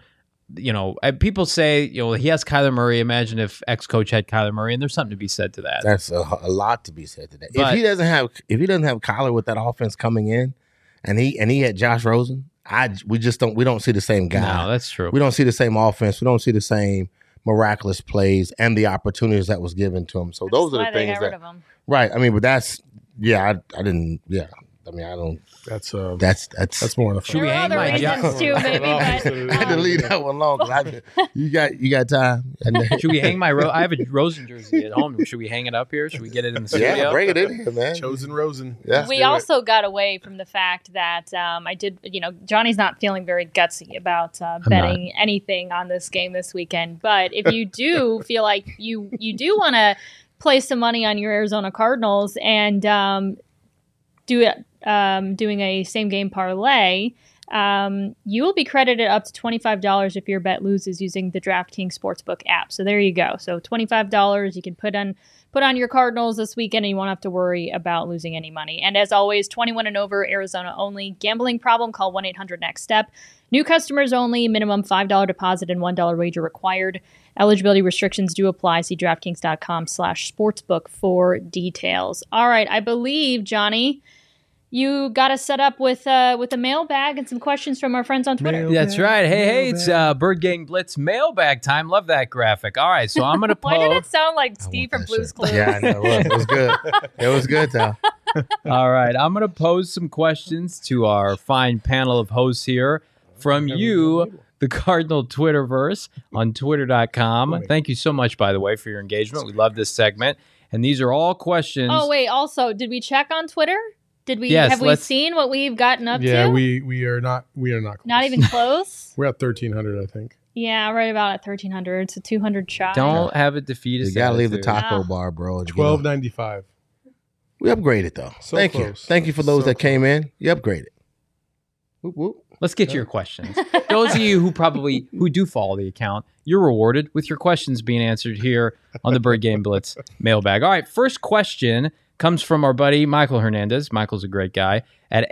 People say, he has Kyler Murray. Imagine if ex-coach had Kyler Murray, and there's something to be said to that. That's a lot to be said to that. But if he doesn't have Kyler with that offense coming in, and he had Josh Rosen, we don't see the same guy. No, that's true. We don't see the same offense. We don't see the same miraculous plays and the opportunities that was given to him. So those are the things that, right? I mean, but that's I didn't. Yeah, I mean, I don't. That's more than Should we hang my job? Too, maybe, I had to leave that one long. You got time. Should we hang my? I have a Rosen jersey at home. Should we hang it up here? Should we get it in the studio? Yeah, bring it in here, man. Chosen Rosen. Yeah. We also got away from the fact that I did. Johnny's not feeling very gutsy about betting anything on this game this weekend. But if you do feel like you do want to place some money on your Arizona Cardinals and do it. Doing a same game parlay, you will be credited up to $25 if your bet loses using the DraftKings Sportsbook app. So there you go. So $25 you can put on your Cardinals this weekend, and you won't have to worry about losing any money. And as always, 21 and over, Arizona only. Gambling problem? Call 1-800-NEXT-STEP. New customers only. Minimum $5 deposit and $1 wager required. Eligibility restrictions do apply. See DraftKings.com/sportsbook for details. All right, I believe, Johnny, you got us set up with a mailbag and some questions from our friends on Twitter. That's right. Hey, it's Bird Gang Blitz mailbag time. Love that graphic. All right, so I'm going to Why did it sound like Steve from Blue's Clues? Yeah, I know. It was good. It was good, Tom. All right, I'm going to pose some questions to our fine panel of hosts here from you, the Cardinal Twitterverse on Twitter.com. Thank you so much, by the way, for your engagement. We love this segment. And these are all questions. Oh, wait. Also, did we check on Twitter? Have we seen what we've gotten up to? Yeah, we are not close. Not even close? We're at 1,300, I think. Yeah, right about at 1,300. So 200 shots. Don't have it defeat us. You got to leave the taco bar, bro. $12.95. We upgraded, though. Thank you. Thank you for those that came in. You upgraded. Whoop, whoop. Let's get to your questions. Those of you who do follow the account, you're rewarded with your questions being answered here on the Bird Game Blitz mailbag. All right, first question comes from our buddy Michael Hernandez. Michael's a great guy at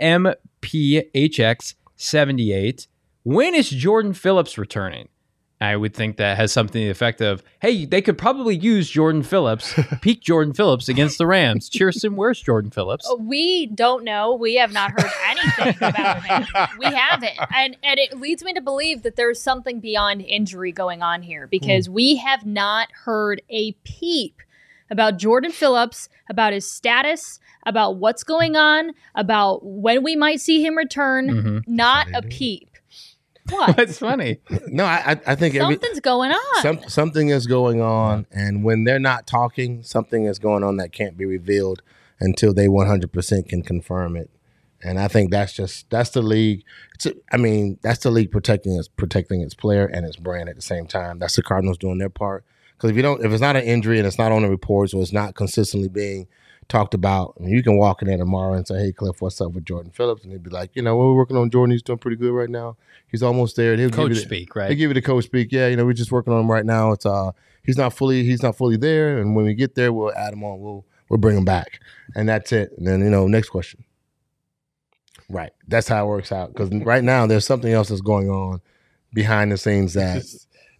MPHX78. When is Jordan Phillips returning? I would think that has something to the effect of, hey, they could probably use Jordan Phillips, peak Jordan Phillips against the Rams. Cheerson, where's Jordan Phillips? We don't know. We have not heard anything about him. We haven't. And it leads me to believe that there's something beyond injury going on here because we have not heard a peep about Jordan Phillips, about his status, about what's going on, about when we might see him return. Not a peep. What? That's funny. No, I think something's going on. Something is going on, and when they're not talking, something is going on that can't be revealed until they 100% can confirm it. And I think that's the league. That's the league protecting its player and its brand at the same time. That's the Cardinals doing their part. Because if it's not an injury and it's not on the reports or it's not consistently being talked about, you can walk in there tomorrow and say, "Hey, Cliff, what's up with Jordan Phillips?" And they'd be like, we're working on Jordan. He's doing pretty good right now. He's almost there. And coach speak, right? They give you the coach speak. Yeah, we're just working on him right now. It's he's not fully there, and when we get there, we'll add him on. We'll bring him back, and that's it. And then next question. Right, that's how it works out. Because right now there's something else that's going on behind the scenes that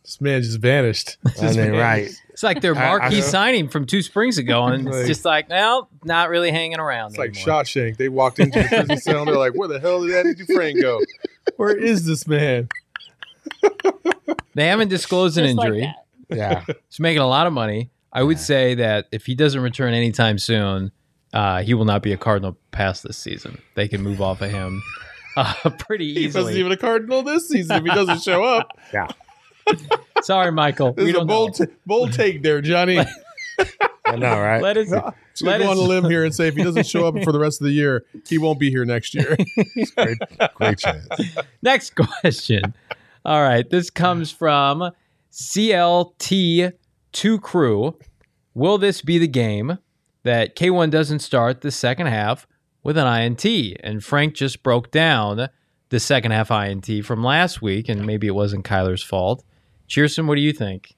This man just vanished. I mean, right. It's like their marquee signing from 2 springs ago, and it's Like- just like, no, not really hanging around. It's like anymore. Shawshank. They walked into the prison cell. They're like, where the hell did Eddie Dufresne go? Where is this man? They haven't disclosed an Just like injury. that. Yeah. He's making a lot of money. I would say that if he doesn't return anytime soon, he will not be a Cardinal past this season. They can move off of him pretty He wasn't easily. even a Cardinal this season if he doesn't show up. Yeah. Sorry, Michael. This We is a don't know. bold take there, Johnny. I know, right? Let us. Should we go on a limb here and say if he doesn't show up for the rest of the year, he won't be here next year. Great chance. Next question. All right. This comes from CLT2 Crew. Will this be the game that K1 doesn't start the second half with an INT? And Frank just broke down the second half INT from last week, and maybe it wasn't Kyler's fault. Cheerson, what do you think?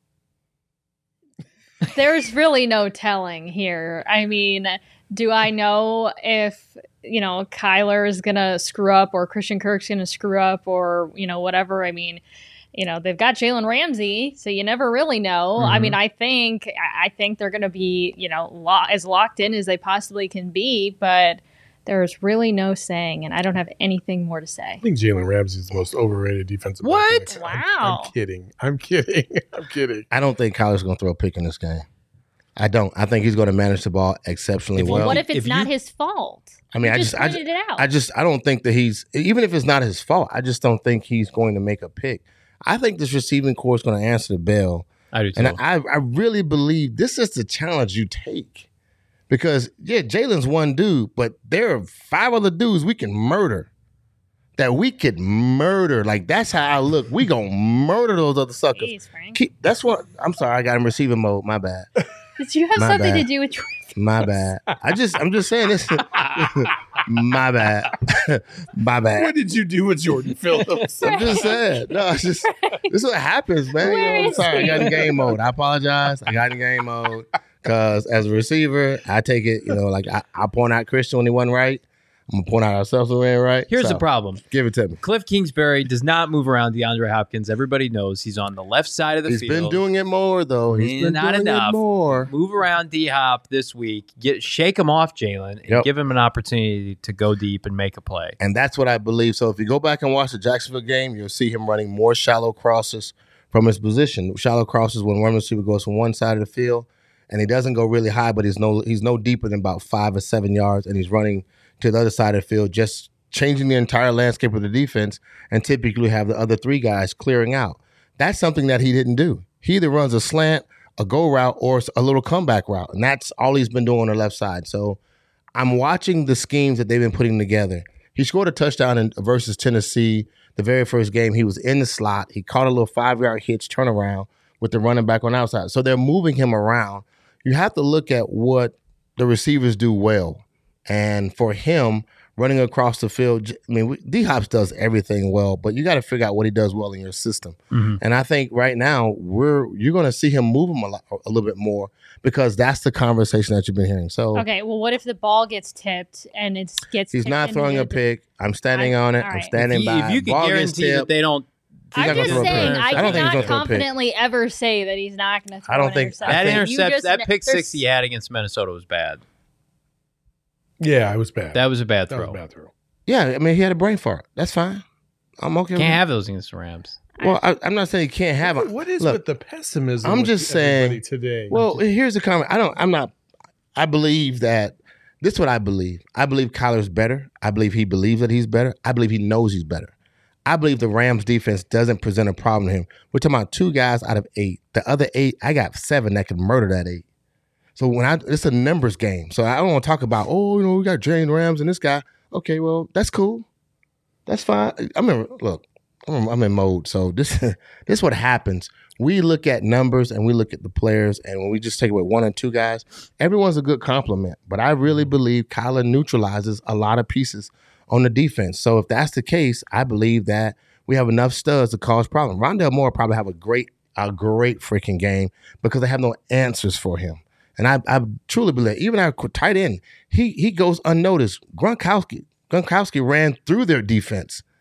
There's really no telling here. I mean, do I know if, Kyler is going to screw up or Christian Kirk's going to screw up or, whatever? I mean, they've got Jalen Ramsey, so you never really know. I mean, I think they're going to be, as locked in as they possibly can be, but there's really no saying, and I don't have anything more to say. I think Jalen Ramsey is the most overrated defensive back What? in the- Wow. I'm kidding. I'm kidding. I don't think Kyler's going to throw a pick in this game. I don't. I think he's going to manage the ball exceptionally If you- well. What if it's if not you- his fault? I mean, You I just just pointed it out. I don't think that he's, even if it's not his fault, I just don't think he's going to make a pick. I think this receiving core is going to answer the bell. I do too. And I really believe this is the challenge you take. Because, yeah, Jalen's one dude, but there are 5 other dudes we can murder. That we could murder. Like, that's how I look. We going to murder those other suckers. Jeez, Frank. That's what, I'm sorry, I got him receiving mode. My bad. Did you have My something bad. to do with My bad. I'm just saying this. My bad. My bad. What did you do with Jordan Phillips? I'm just saying. No, it's just this is what happens, man. Where I'm is sorry. I got in he? game mode. I apologize. I got in game mode because as a receiver, I take it. Like I point out Christian when he wasn't right. I'm gonna point out ourselves when we ain't right. Here's So, the problem. Give it to me. Cliff Kingsbury does not move around DeAndre Hopkins. Everybody knows he's on the left side of the He's field. been doing it more though. He's been Not doing enough. it more. Move around D-Hop this week. Shake him off, Jalen, and Yep. give him an opportunity to go deep and make a play. And that's what I believe. So if you go back and watch the Jacksonville game, you'll see him running more shallow crosses from his position. Shallow crosses when one receiver goes from one side of the field, and he doesn't go really high, but he's no deeper than about 5 or 7 yards, and he's running to the other side of the field, just changing the entire landscape of the defense, and typically have the other 3 guys clearing out. That's something that he didn't do. He either runs a slant, a go route, or a little comeback route, and that's all he's been doing on the left side. So I'm watching the schemes that they've been putting together. He scored a touchdown versus Tennessee the very first game. He was in the slot. He caught a little 5-yard hitch turnaround with the running back on the outside. So they're moving him around. You have to look at what the receivers do well. And for him, running across the field, I mean, D-Hops does everything well, but you got to figure out what he does well in your system. Mm-hmm. And I think right now you're going to see him move him a little bit more because that's the conversation that you've been hearing. So Okay, well, what if the ball gets tipped and it gets he's tipped not throwing a into the- pick. I'm standing on it. all I'm right. standing by. If you could Ball gets guarantee that tipped. they don't, He's not I'm gonna just throw a pick. saying, I I don't think he's cannot gonna throw a pick. confidently ever say that he's not going to throw I don't an think- interception. I that think- You intercept, just- that pick there's- 6 he had against Minnesota was bad. Yeah, it was bad. That was a bad That was throw. a bad throw. Yeah, I mean, he had a brain fart. That's fine. I'm okay. Can't with have those against the Rams. it. Well, I'm not saying he can't have it. What is Look, with the pessimism? I'm with just everybody saying- today. Well, here's the comment. I believe that this is what I believe. I believe Kyler's better. I believe he believes that he's better. I believe he knows he's better. I believe the Rams defense doesn't present a problem to him. We're talking about 2 guys out of 8. The other 8, I got 7 that can murder that 8. So it's a numbers game. So I don't want to talk about, we got Jalen Rams and this guy. Okay, well, that's cool. That's fine. I'm in mode. So this is what happens. We look at numbers and we look at the players, and when we just take away 1 or 2 guys, everyone's a good compliment. But I really believe Kyler neutralizes a lot of pieces on the defense. So if that's the case, I believe that we have enough studs to cause problems. Rondale Moore probably have a great freaking game because they have no answers for him. And I truly believe, even our tight end, he goes unnoticed. Gronkowski ran through their defense.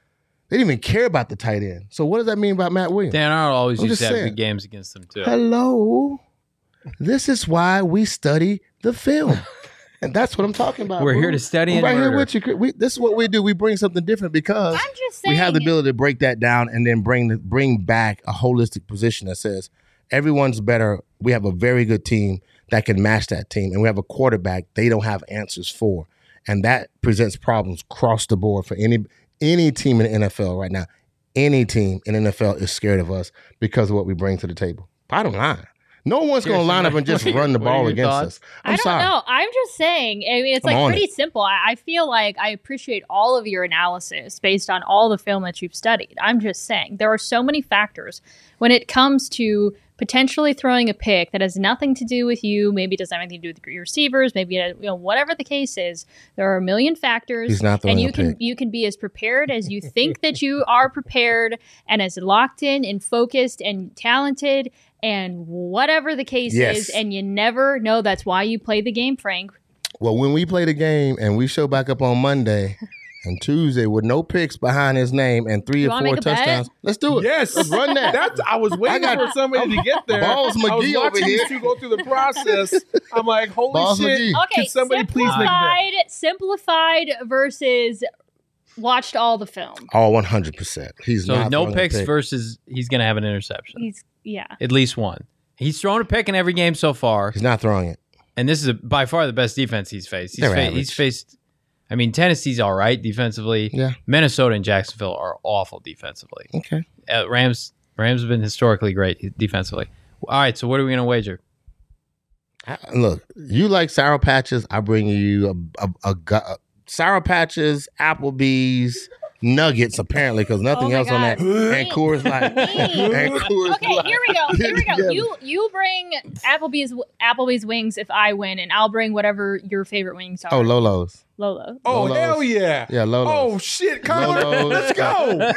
They didn't even care about the tight end. So what does that mean about Matt Williams? Dan Arnold always I'm used to just have saying. good games against them too. Hello. This is why we study the film. And that's what I'm talking about. We're bro. here to study I'm and right murder. here with you. This is what we do. We bring something different because I'm just saying. we have the ability to break that down and then bring back a holistic position that says everyone's better. We have a very good team that can match that team, and we have a quarterback they don't have answers for, and that presents problems across the board for any team in the NFL right now. Any team in the NFL is scared of us because of what we bring to the table. Bottom line. No one's going to line up and just run the what are ball your against thoughts? us. I don't know. I'm just saying. I mean, it's like pretty simple. I feel like I appreciate all of your analysis based on all the film that you've studied. I'm just saying there are so many factors when it comes to potentially throwing a pick that has nothing to do with you. Maybe it doesn't have anything to do with your receivers. Maybe whatever the case is, there are a million factors. He's not throwing and a pick. you can be as prepared as you think that you are prepared, and as locked in and focused and talented and whatever the case is, and you never know. That's why you play the game, Frank. Well, when we play the game and we show back up on Monday and Tuesday with no picks behind his name and 3 or 4 touchdowns, let's do it. Yes, let's run that. I was waiting for somebody to get there. Balls McGee I was over watching here. these two go through the process. I'm like, holy Balls shit! McGee. Okay, Can somebody please make that? simplified versus watched all the film. Oh, 100%. He's So not no throwing a picks pick. versus he's going to have an interception. Yeah. At least one. He's thrown a pick in every game so far, He's not throwing it. and this is by far the best defense he's faced. They're He's average. faced. I mean, Tennessee's all right defensively. Yeah. Minnesota and Jacksonville are awful defensively. Okay. Rams have been historically great defensively. All right, so what are we going to wager? Look, you like Sour Patches. I bring you a Sour Patches, Applebee's, Nuggets, apparently, because nothing Oh my else on God. that. And Coors Light. And Coors Okay, Light. here we go. Together. You bring Applebee's wings if I win, and I'll bring whatever your favorite wings are. Oh, Lolo's. Lolo. Oh Lolo's. hell yeah! Yeah, Lolo's. Oh shit, Kyler, Lolo's. let's go!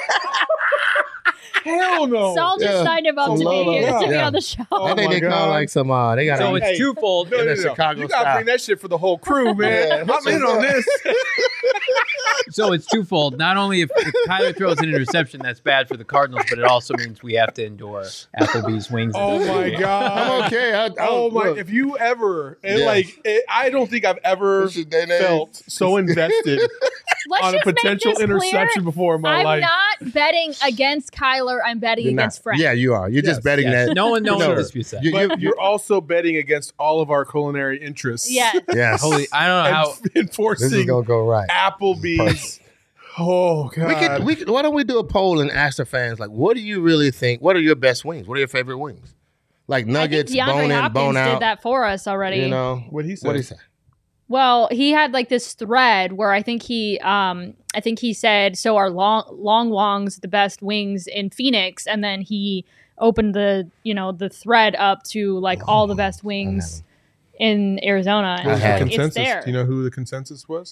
Hell no! Saul just Yeah. signed him up Some to Lolo. be Yeah. on the show. Oh I think my they call God. like some, they got So a, it's twofold. No, in the Chicago you gotta style. bring that shit for the whole crew, man. Yeah, I'm in on this. So it's twofold. Not only if Kyler throws an interception, that's bad for the Cardinals, but it also means we have to endure Applebee's wings. Oh my god! I'm okay. Oh my! Look. If you ever and Yeah. I don't think I've ever This is their name. felt so invested Let's on a just make potential this interception clear. before in my I'm life. not betting against Kyler. I'm betting You're against not. Frank. Yeah, you are. You're just Yes, betting Yes. that. No one Sure. disputes that. You- But you're also betting against all of our culinary interests. Yeah. Yes. Holy, I don't know And how. This is enforcing gonna go right. Applebee's. Oh god! We could. Why don't we do a poll and ask the fans, like, what do you really think? What are your best wings? What are your favorite wings? Like nuggets, I think DeAndre bone in, Hopkins bone out. did that for us already. You know What'd he say? What he say? Well, he had like this thread where I think he said, so our long longs the best wings in Phoenix, and then he opened the thread up to like all the best wings in Arizona, What was and the had like, consensus? it's there. Do you know who the consensus was?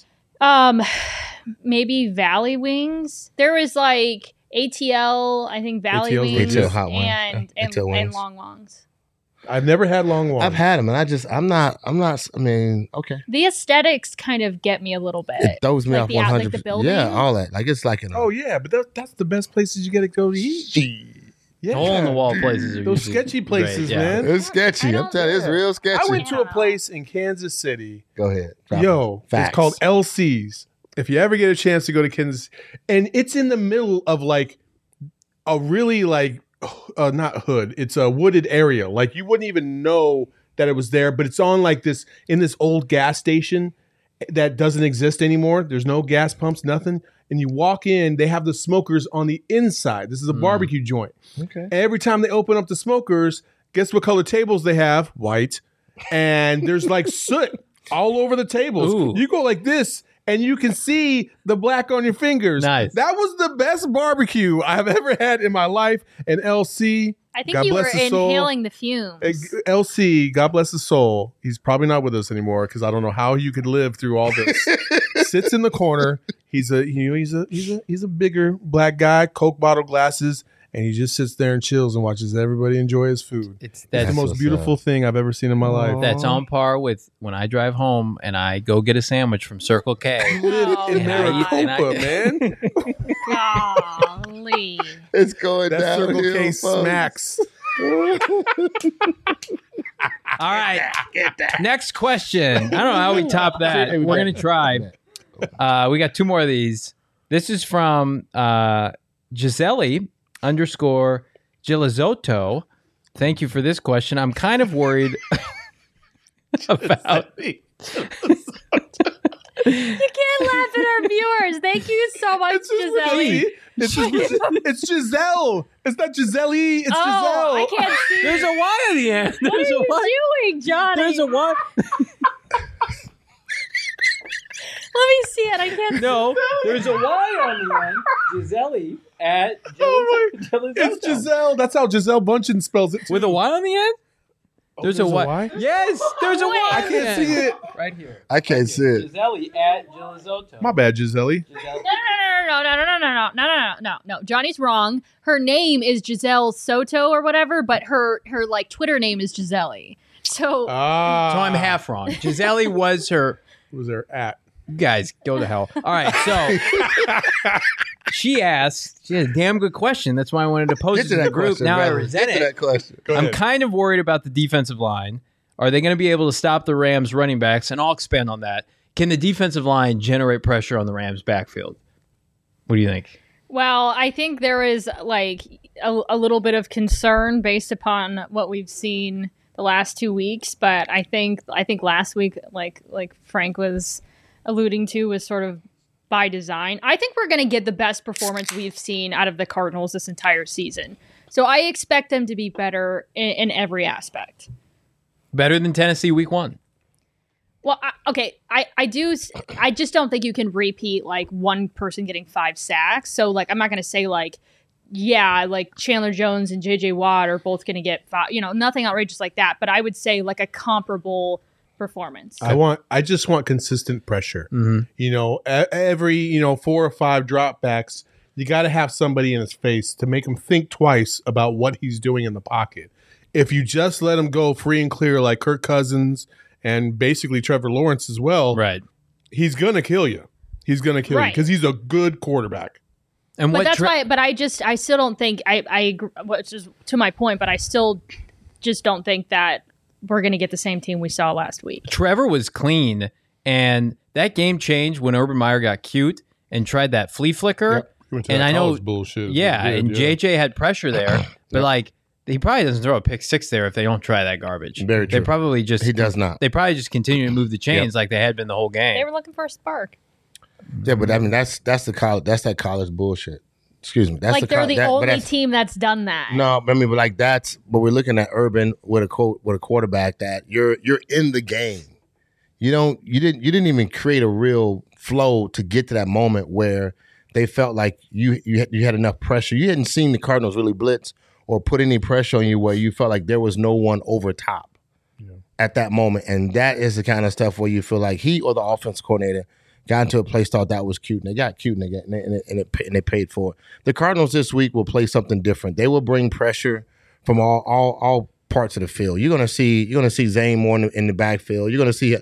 Maybe Valley Wings. There was like ATL, I think Valley ATL's Wings, ATL hot wings. and ATL wings. long longs. I've never had long ones. I've had them, and I'm not. I mean, okay. The aesthetics kind of get me a little bit. It throws me Like off the 100. like the building. Yeah, all that. Like it's like Oh yeah, but that's the best places you get to go to eat. Yeah. Hole in the wall places are Those usually sketchy places, great, yeah. man. it's sketchy. I I'm don't- telling you, it's real sketchy. I went to a Yeah. place in Kansas City. Go ahead. Drop Yo, it. Facts. it's called LC's. If you ever get a chance to go to Kansas, and it's in the middle of like a really like not hood. It's a wooded area. Like you wouldn't even know that it was there, but it's on like this in this old gas station that doesn't exist anymore. There's no gas pumps, nothing. And you walk in, they have the smokers on the inside. This is a barbecue joint. Okay. Every time they open up the smokers, guess what color tables they have? White. And there's like soot all over the tables. Ooh. You go like this and you can see the black on your fingers. Nice. That was the best barbecue I've ever had in my life. And LC, I think God you were bless his soul. inhaling the fumes. LC, God bless his soul. He's probably not with us anymore because I don't know how you could live through all this. Sits in the corner. He's a bigger black guy, Coke bottle glasses, and he just sits there and chills and watches everybody enjoy his food. It's That's the most what's beautiful up. thing I've ever seen in my life. That's on par with when I drive home and I go get a sandwich from Circle K. Oh, in And I eat- and I- Maricopa, man. golly. It's going That down. Circle K smacks. All right. Next question. I don't know how we top that. We're going to try. We got 2 more of these. This is from Gisele_Gilizotto. Thank you for this question. I'm kind of worried about. You can't laugh at our viewers. Thank you so much, Gisele. It's Giselle. It's not Giselle. It's Oh, I Giselle. can't see. There's a Y at the end. What are There's a you Y. doing, Johnny? There's a Y. Let me see it. I can't. No, there's a Y on the end. Gisele at It's Giselle. That's how Giselle Bundchen spells it. Too. with a Y on the end. There's a Y. Yes, there's a Y. I can't see it. Right here. I can't see it. Gisele at Gilizotto. My bad, Giselle. No. Johnny's wrong. Her name is Giselle Soto or whatever, but her like Twitter name is Gisele. So So I'm half wrong. Gisele was her. Was there at? You guys, go to hell. All right, so she asked. She had a damn good question. That's why I wanted to post Get it to in the that group. question. Now I brother. resent Get to it. that question. Go I'm ahead. kind of worried about the defensive line. Are they going to be able to stop the Rams running backs? And I'll expand on that. Can the defensive line generate pressure on the Rams backfield? What do you think? well, I think there is like a little bit of concern based upon what we've seen the last 2 weeks, but I think last week, like Frank was alluding to, was sort of by design. I think we're going to get the best performance we've seen out of the Cardinals this entire season. So I expect them to be better in every aspect. Better than Tennessee week 1. Well, I just don't think you can repeat like one person getting 5 sacks. So like, I'm not going to say like, yeah, like Chandler Jones and JJ Watt are both going to get 5, nothing outrageous like that. But I would say like a comparable performance. I just want consistent pressure. Every 4 or 5 dropbacks, you got to have somebody in his face to make him think twice about what he's doing in the pocket. If you just let him go free and clear like Kirk Cousins and basically Trevor Lawrence as well, Right. he's gonna kill you. He's gonna kill you Right. because he's a good quarterback. And But what that's why. But I still don't think I agree, which is to my point. But I still just don't think that we're going to get the same team we saw last week. Trevor was clean, and that game changed when Urban Meyer got cute and tried that flea flicker. And I know, bullshit. yeah, and JJ had pressure there, but like he probably doesn't throw a pick 6 there if they don't try that garbage. Very They true. probably just He does not. They probably just continue to move the chains like they had been the whole game. They were looking for a spark. Yeah, but I mean that's the college. That's that college bullshit. Excuse me. That's Like they're the but only that's- team that's done that. No, I mean, but like that's. But we're looking at Urban with a quarterback that you're in the game. You didn't even create a real flow to get to that moment where they felt like you had enough pressure. You hadn't seen the Cardinals really blitz or put any pressure on you where you felt like there was no one over top at that moment. And that is the kind of stuff where you feel like he or the offensive coordinator got into a place, thought that was cute, and they got cute, and they paid for it. The Cardinals this week will play something different. They will bring pressure from all parts of the field. You're gonna see Zane more in the backfield. You're gonna see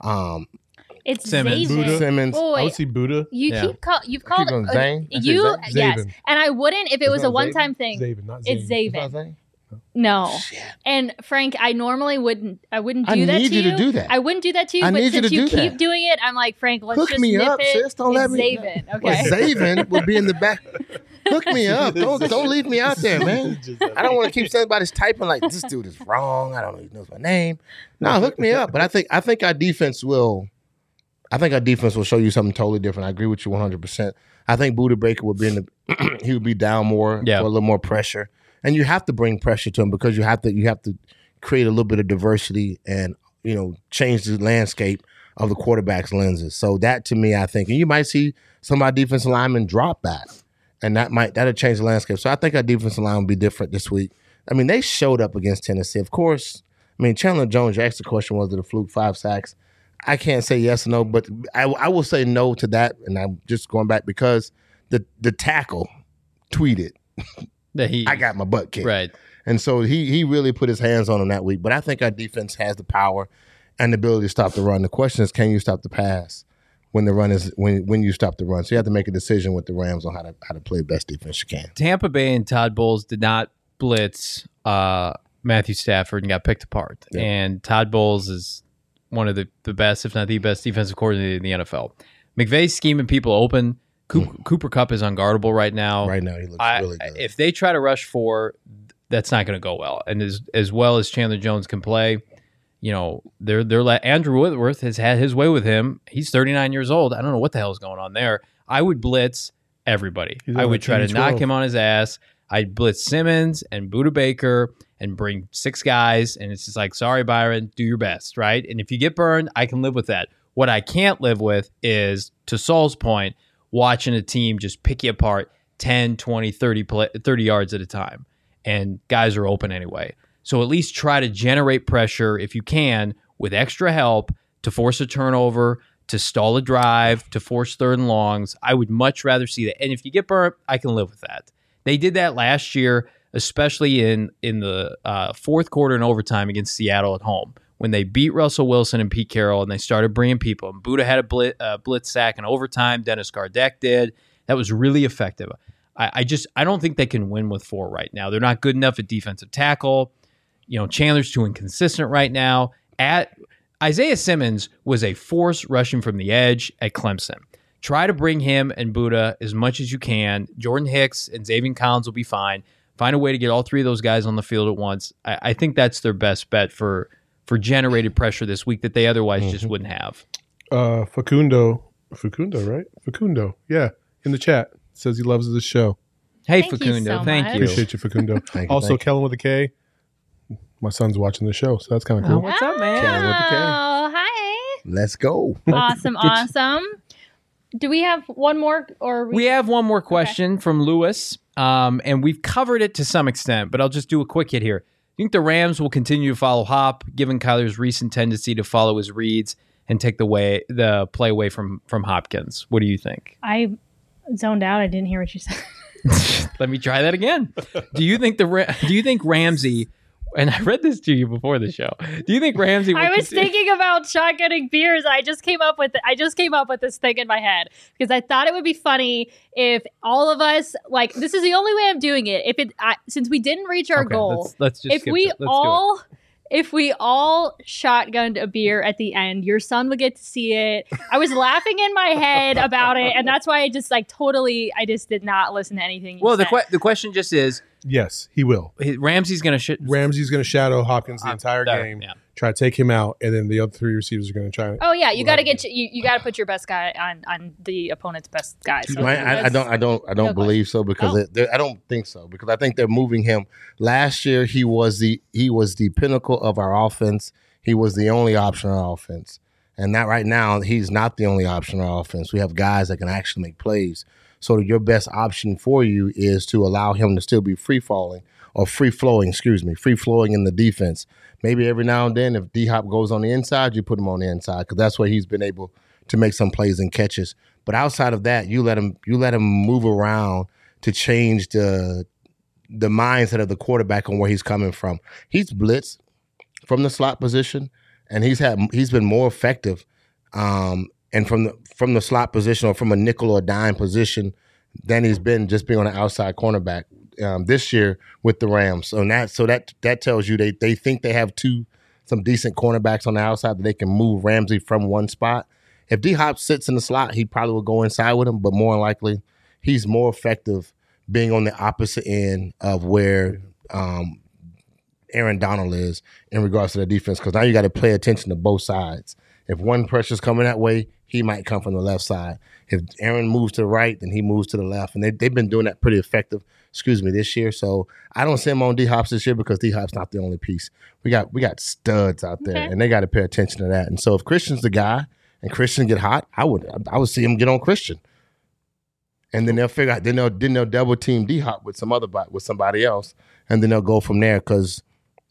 It's Simmons. Zaven. Simmons. Oh, I would wait. see Buddha. you've Keep called going, Zane? I said you Zane? yes, Zaven. and I wouldn't if it was not a one-time thing. Zaven, not It's Zaven. Zaven. No. And Frank, I normally wouldn't do I that need to you you. to do that. I wouldn't do that to you, I but need you since to you do keep that. doing it, I'm like, Frank, let's Hook just me nip up, it. sis. Don't let It's me. Zaven. But Okay. Zaven will be in the back. Hook me up. Don't leave me out there, man. I don't want to keep somebody's typing like this dude is wrong. I don't know. He knows my name. No, hook me up. But I think our defense will. I think our defense will show you something totally different. I agree with you 100%. I think Buda Baker would be in the. He would be down more Yeah. for a little more pressure, and you have to bring pressure to him because you have to create a little bit of diversity and change the landscape of the quarterback's lenses. So that to me, I think, and you might see some of our defensive linemen drop back, and that'll change the landscape. So I think our defensive line will be different this week. I mean, they showed up against Tennessee, of course. I mean, Chandler Jones. You asked the question, was it a fluke? 5 sacks. I can't say yes or no, but I will say no to that, and I'm just going back because the tackle tweeted I got my butt kicked. Right. And so he really put his hands on him that week. But I think our defense has the power and the ability to stop the run. The question is, can you stop the pass when the run is when you stop the run? So you have to make a decision with the Rams on how to play the best defense you can. Tampa Bay and Todd Bowles did not blitz Matthew Stafford and got picked apart. Yeah. And Todd Bowles is one of the best, if not the best, defensive coordinator in the NFL. McVay's scheming people open. Cooper Kupp is unguardable right now. Right now, he looks really good. If they try to rush 4, that's not going to go well. And as well as Chandler Jones can play, they're Andrew Whitworth has had his way with him. He's 39 years old. I don't know what the hell is going on there. I would blitz everybody. I would try to knock him on his ass. I'd blitz Simmons and Budda Baker and bring 6 guys. And it's just like, sorry, Byron, do your best, right? And if you get burned, I can live with that. What I can't live with is, to Saul's point, watching a team just pick you apart 10, 20, 30 yards at a time. And guys are open anyway. So at least try to generate pressure if you can with extra help to force a turnover, to stall a drive, to force 3rd and longs. I would much rather see that. And if you get burnt, I can live with that. They did that last year, especially in the 4th quarter and overtime against Seattle at home, when they beat Russell Wilson and Pete Carroll and they started bringing people. And Budda had a blitz sack in overtime. Dennis Gardeck did. That was really effective. I don't think they can win with 4 right now. They're not good enough at defensive tackle. Chandler's too inconsistent right now. Isaiah Simmons was a force rushing from the edge at Clemson. Try to bring him and Budda as much as you can. Jordan Hicks and Xavier Collins will be fine. Find a way to get all 3 of those guys on the field at once. I think that's their best bet for generated pressure this week that they otherwise just wouldn't have. Facundo, right? Facundo, yeah, in the chat says he loves this show. Hey, Thank you Facundo, so thank much. you. Appreciate you, Facundo. Also, Kellen with a K. My son's watching the show, so that's kind of cool. What's up, man? Kellen with the K. Oh, hi. Let's go. Awesome. Do we have one more? We have one more question from Lewis, and we've covered it to some extent, but I'll just do a quick hit here. I think the Rams will continue to follow Hop, given Kyler's recent tendency to follow his reads and take the play away from Hopkins. What do you think? I zoned out. I didn't hear what you said. Let me try that again. Do you think Ramsey? And I read this to you before the show. Do you think Ramsey? I was thinking about shotgunning beers. I just came up with this thing in my head because I thought it would be funny if all of us, like, this is the only way I'm doing it. Since we didn't reach our goal, let's just if we all shotgunned a beer at the end, your son would get to see it. I was laughing in my head about it, and that's why I just did not listen to anything you said. The question just is, yes, he will. Ramsey's going to shadow Hopkins the entire game. Yeah. Try to take him out, and then the other 3 receivers are going to try. Oh yeah, you got to you got to put your best guy on the opponent's best guy. So I don't believe so because I don't think so because I think they're moving him. Last year he was the pinnacle of our offense. He was the only option on our offense, and that right now he's not the only option on our offense. We have guys that can actually make plays. So your best option for you is to allow him to still be free flowing in the defense. Maybe every now and then, if D-Hop goes on the inside, you put him on the inside because that's where he's been able to make some plays and catches. But outside of that, you let him move around to change the mindset of the quarterback on where he's coming from. He's blitzed from the slot position, and he's been more effective. And from the slot position or from a nickel or dime position than he's been just being on the outside cornerback this year with the Rams. So that tells you they think they have some decent cornerbacks on the outside that they can move Ramsey from one spot. If D-Hop sits in the slot, he probably will go inside with him, but more than likely he's more effective being on the opposite end of where Aaron Donald is in regards to the defense because now you got to pay attention to both sides. If one pressure's coming that way, he might come from the left side. If Aaron moves to the right, then he moves to the left. And they've been doing that pretty effective, this year. So I don't see him on D-Hops this year because D-Hop's not the only piece. We got studs out there, and they got to pay attention to that. And so if Christian's the guy and Christian get hot, I would see him get on Christian. And then they'll figure out, then they'll double team D-Hop with somebody else, and then they'll go from there because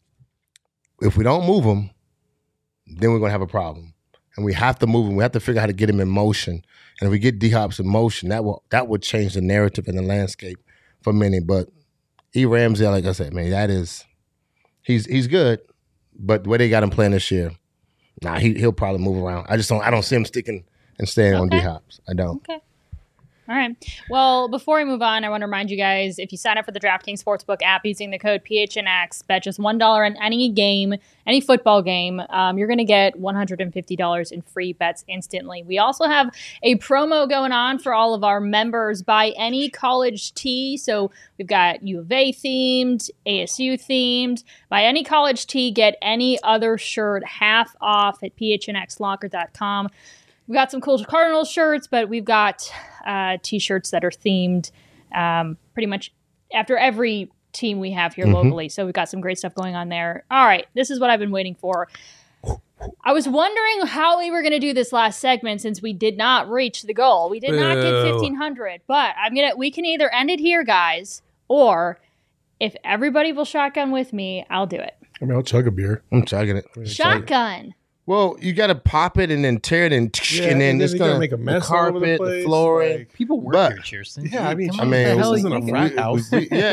if we don't move him, then we're going to have a problem. And we have to move him. We have to figure out how to get him in motion. And if we get D-Hops in motion, that will change the narrative and the landscape for many. But E. Ramsey, like I said, man, he's good, but the way they got him playing this year, he'll probably move around. I don't see him sticking and staying on D Hops. I don't. Okay. All right. Well, before we move on, I want to remind you guys, if you sign up for the DraftKings Sportsbook app using the code PHNX, bet just $1 on any game, any football game, you're going to get $150 in free bets instantly. We also have a promo going on for all of our members. Buy any college tee. So we've got U of A themed, ASU themed. Buy any college tee, get any other shirt half off at phnxlocker.com. We've got some cool Cardinals shirts, but we've got T-shirts that are themed pretty much after every team we have here locally. So we've got some great stuff going on there. All right, this is what I've been waiting for. I was wondering how we were going to do this last segment since we did not reach the goal. We did not get 1,500, but we can either end it here, guys, or if everybody will shotgun with me, I'll do it. I mean, I'll chug a beer. I'm chugging it. Shotgun. Well, you got to pop it and then tear it and then it's going to make a mess the carpet, all over the place, the flooring. like- People work But- here, Cheerson. Yeah, I mean, Come on, what the hell this are you isn't a thinking? frat house.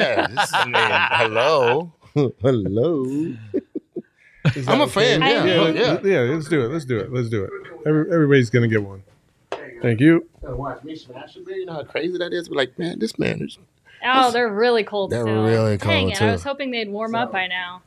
Hello. Hello. I'm a fan. Yeah, let's do it. Everybody's gonna get one. Thank you. Watch me smash a beer. You know how crazy that is? We're like, man, this man is. Oh, they're really cold They're still. really Dang cold, it, too. I was hoping they'd warm up by now.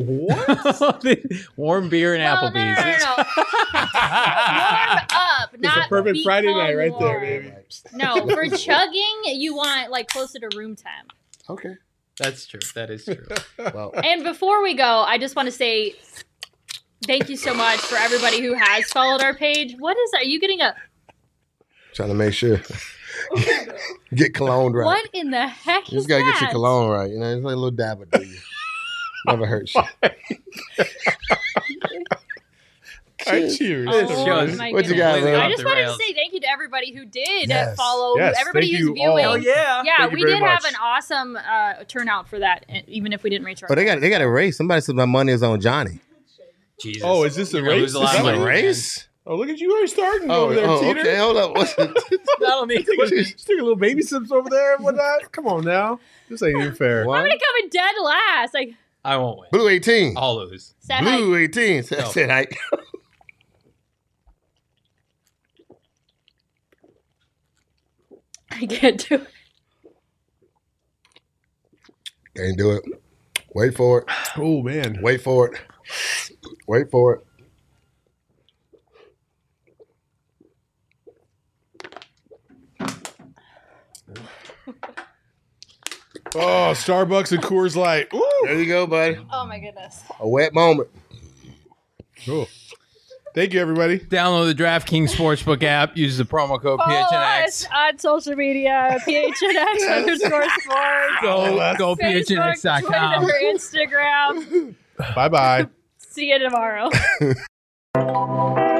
Warm beer and Well, Applebee's. No. Warm up, It's not a perfect become Friday night right there, warm. baby. No, for chugging, you want like closer to room temp. Okay. That's true. That is true. Well, And before we go, I just want to say thank you so much for everybody who has followed our page. What is that? Are you getting a... trying to make sure. Get cologne right. What in the heck You is just got to that? get your cologne right. You know, it's like a little dab of you. Never hurts you. Cheers. Oh, shows. my What you goodness. got, man? I Off just the wanted rails. to say thank you to everybody who did Yes. follow, Yes, everybody thank who's you viewing. all. yeah. Yeah, Thank you we very did have much. an awesome turnout for that, even if we didn't reach our But they got a race. Somebody said my money is on Johnny. Jesus. Oh, is this a You're gonna race? lose a Is lot that of what money. it race? Oh, look at you already starting Oh, over there, Teeter. okay. Hold up. What's it? I don't need Just took a little baby sips over there and whatnot. Come on now. This ain't even fair. I'm What? gonna come in dead last. Like I won't win. Blue 18. I'll lose. said Blue 18. No. Said I. I can't do it. Can't do it. Wait for it. Oh, man. Wait for it. Wait for it. Oh, Starbucks and Coors Light. Woo! There you go, buddy. Oh my goodness. A wet moment. Cool. Thank you, everybody. Download the DraftKings Sportsbook app. Use the promo code Follow PHNX. us on social media, PHNX_sports. Go Facebook, PHNX.com. Twitter, Instagram. Bye-bye. See you tomorrow.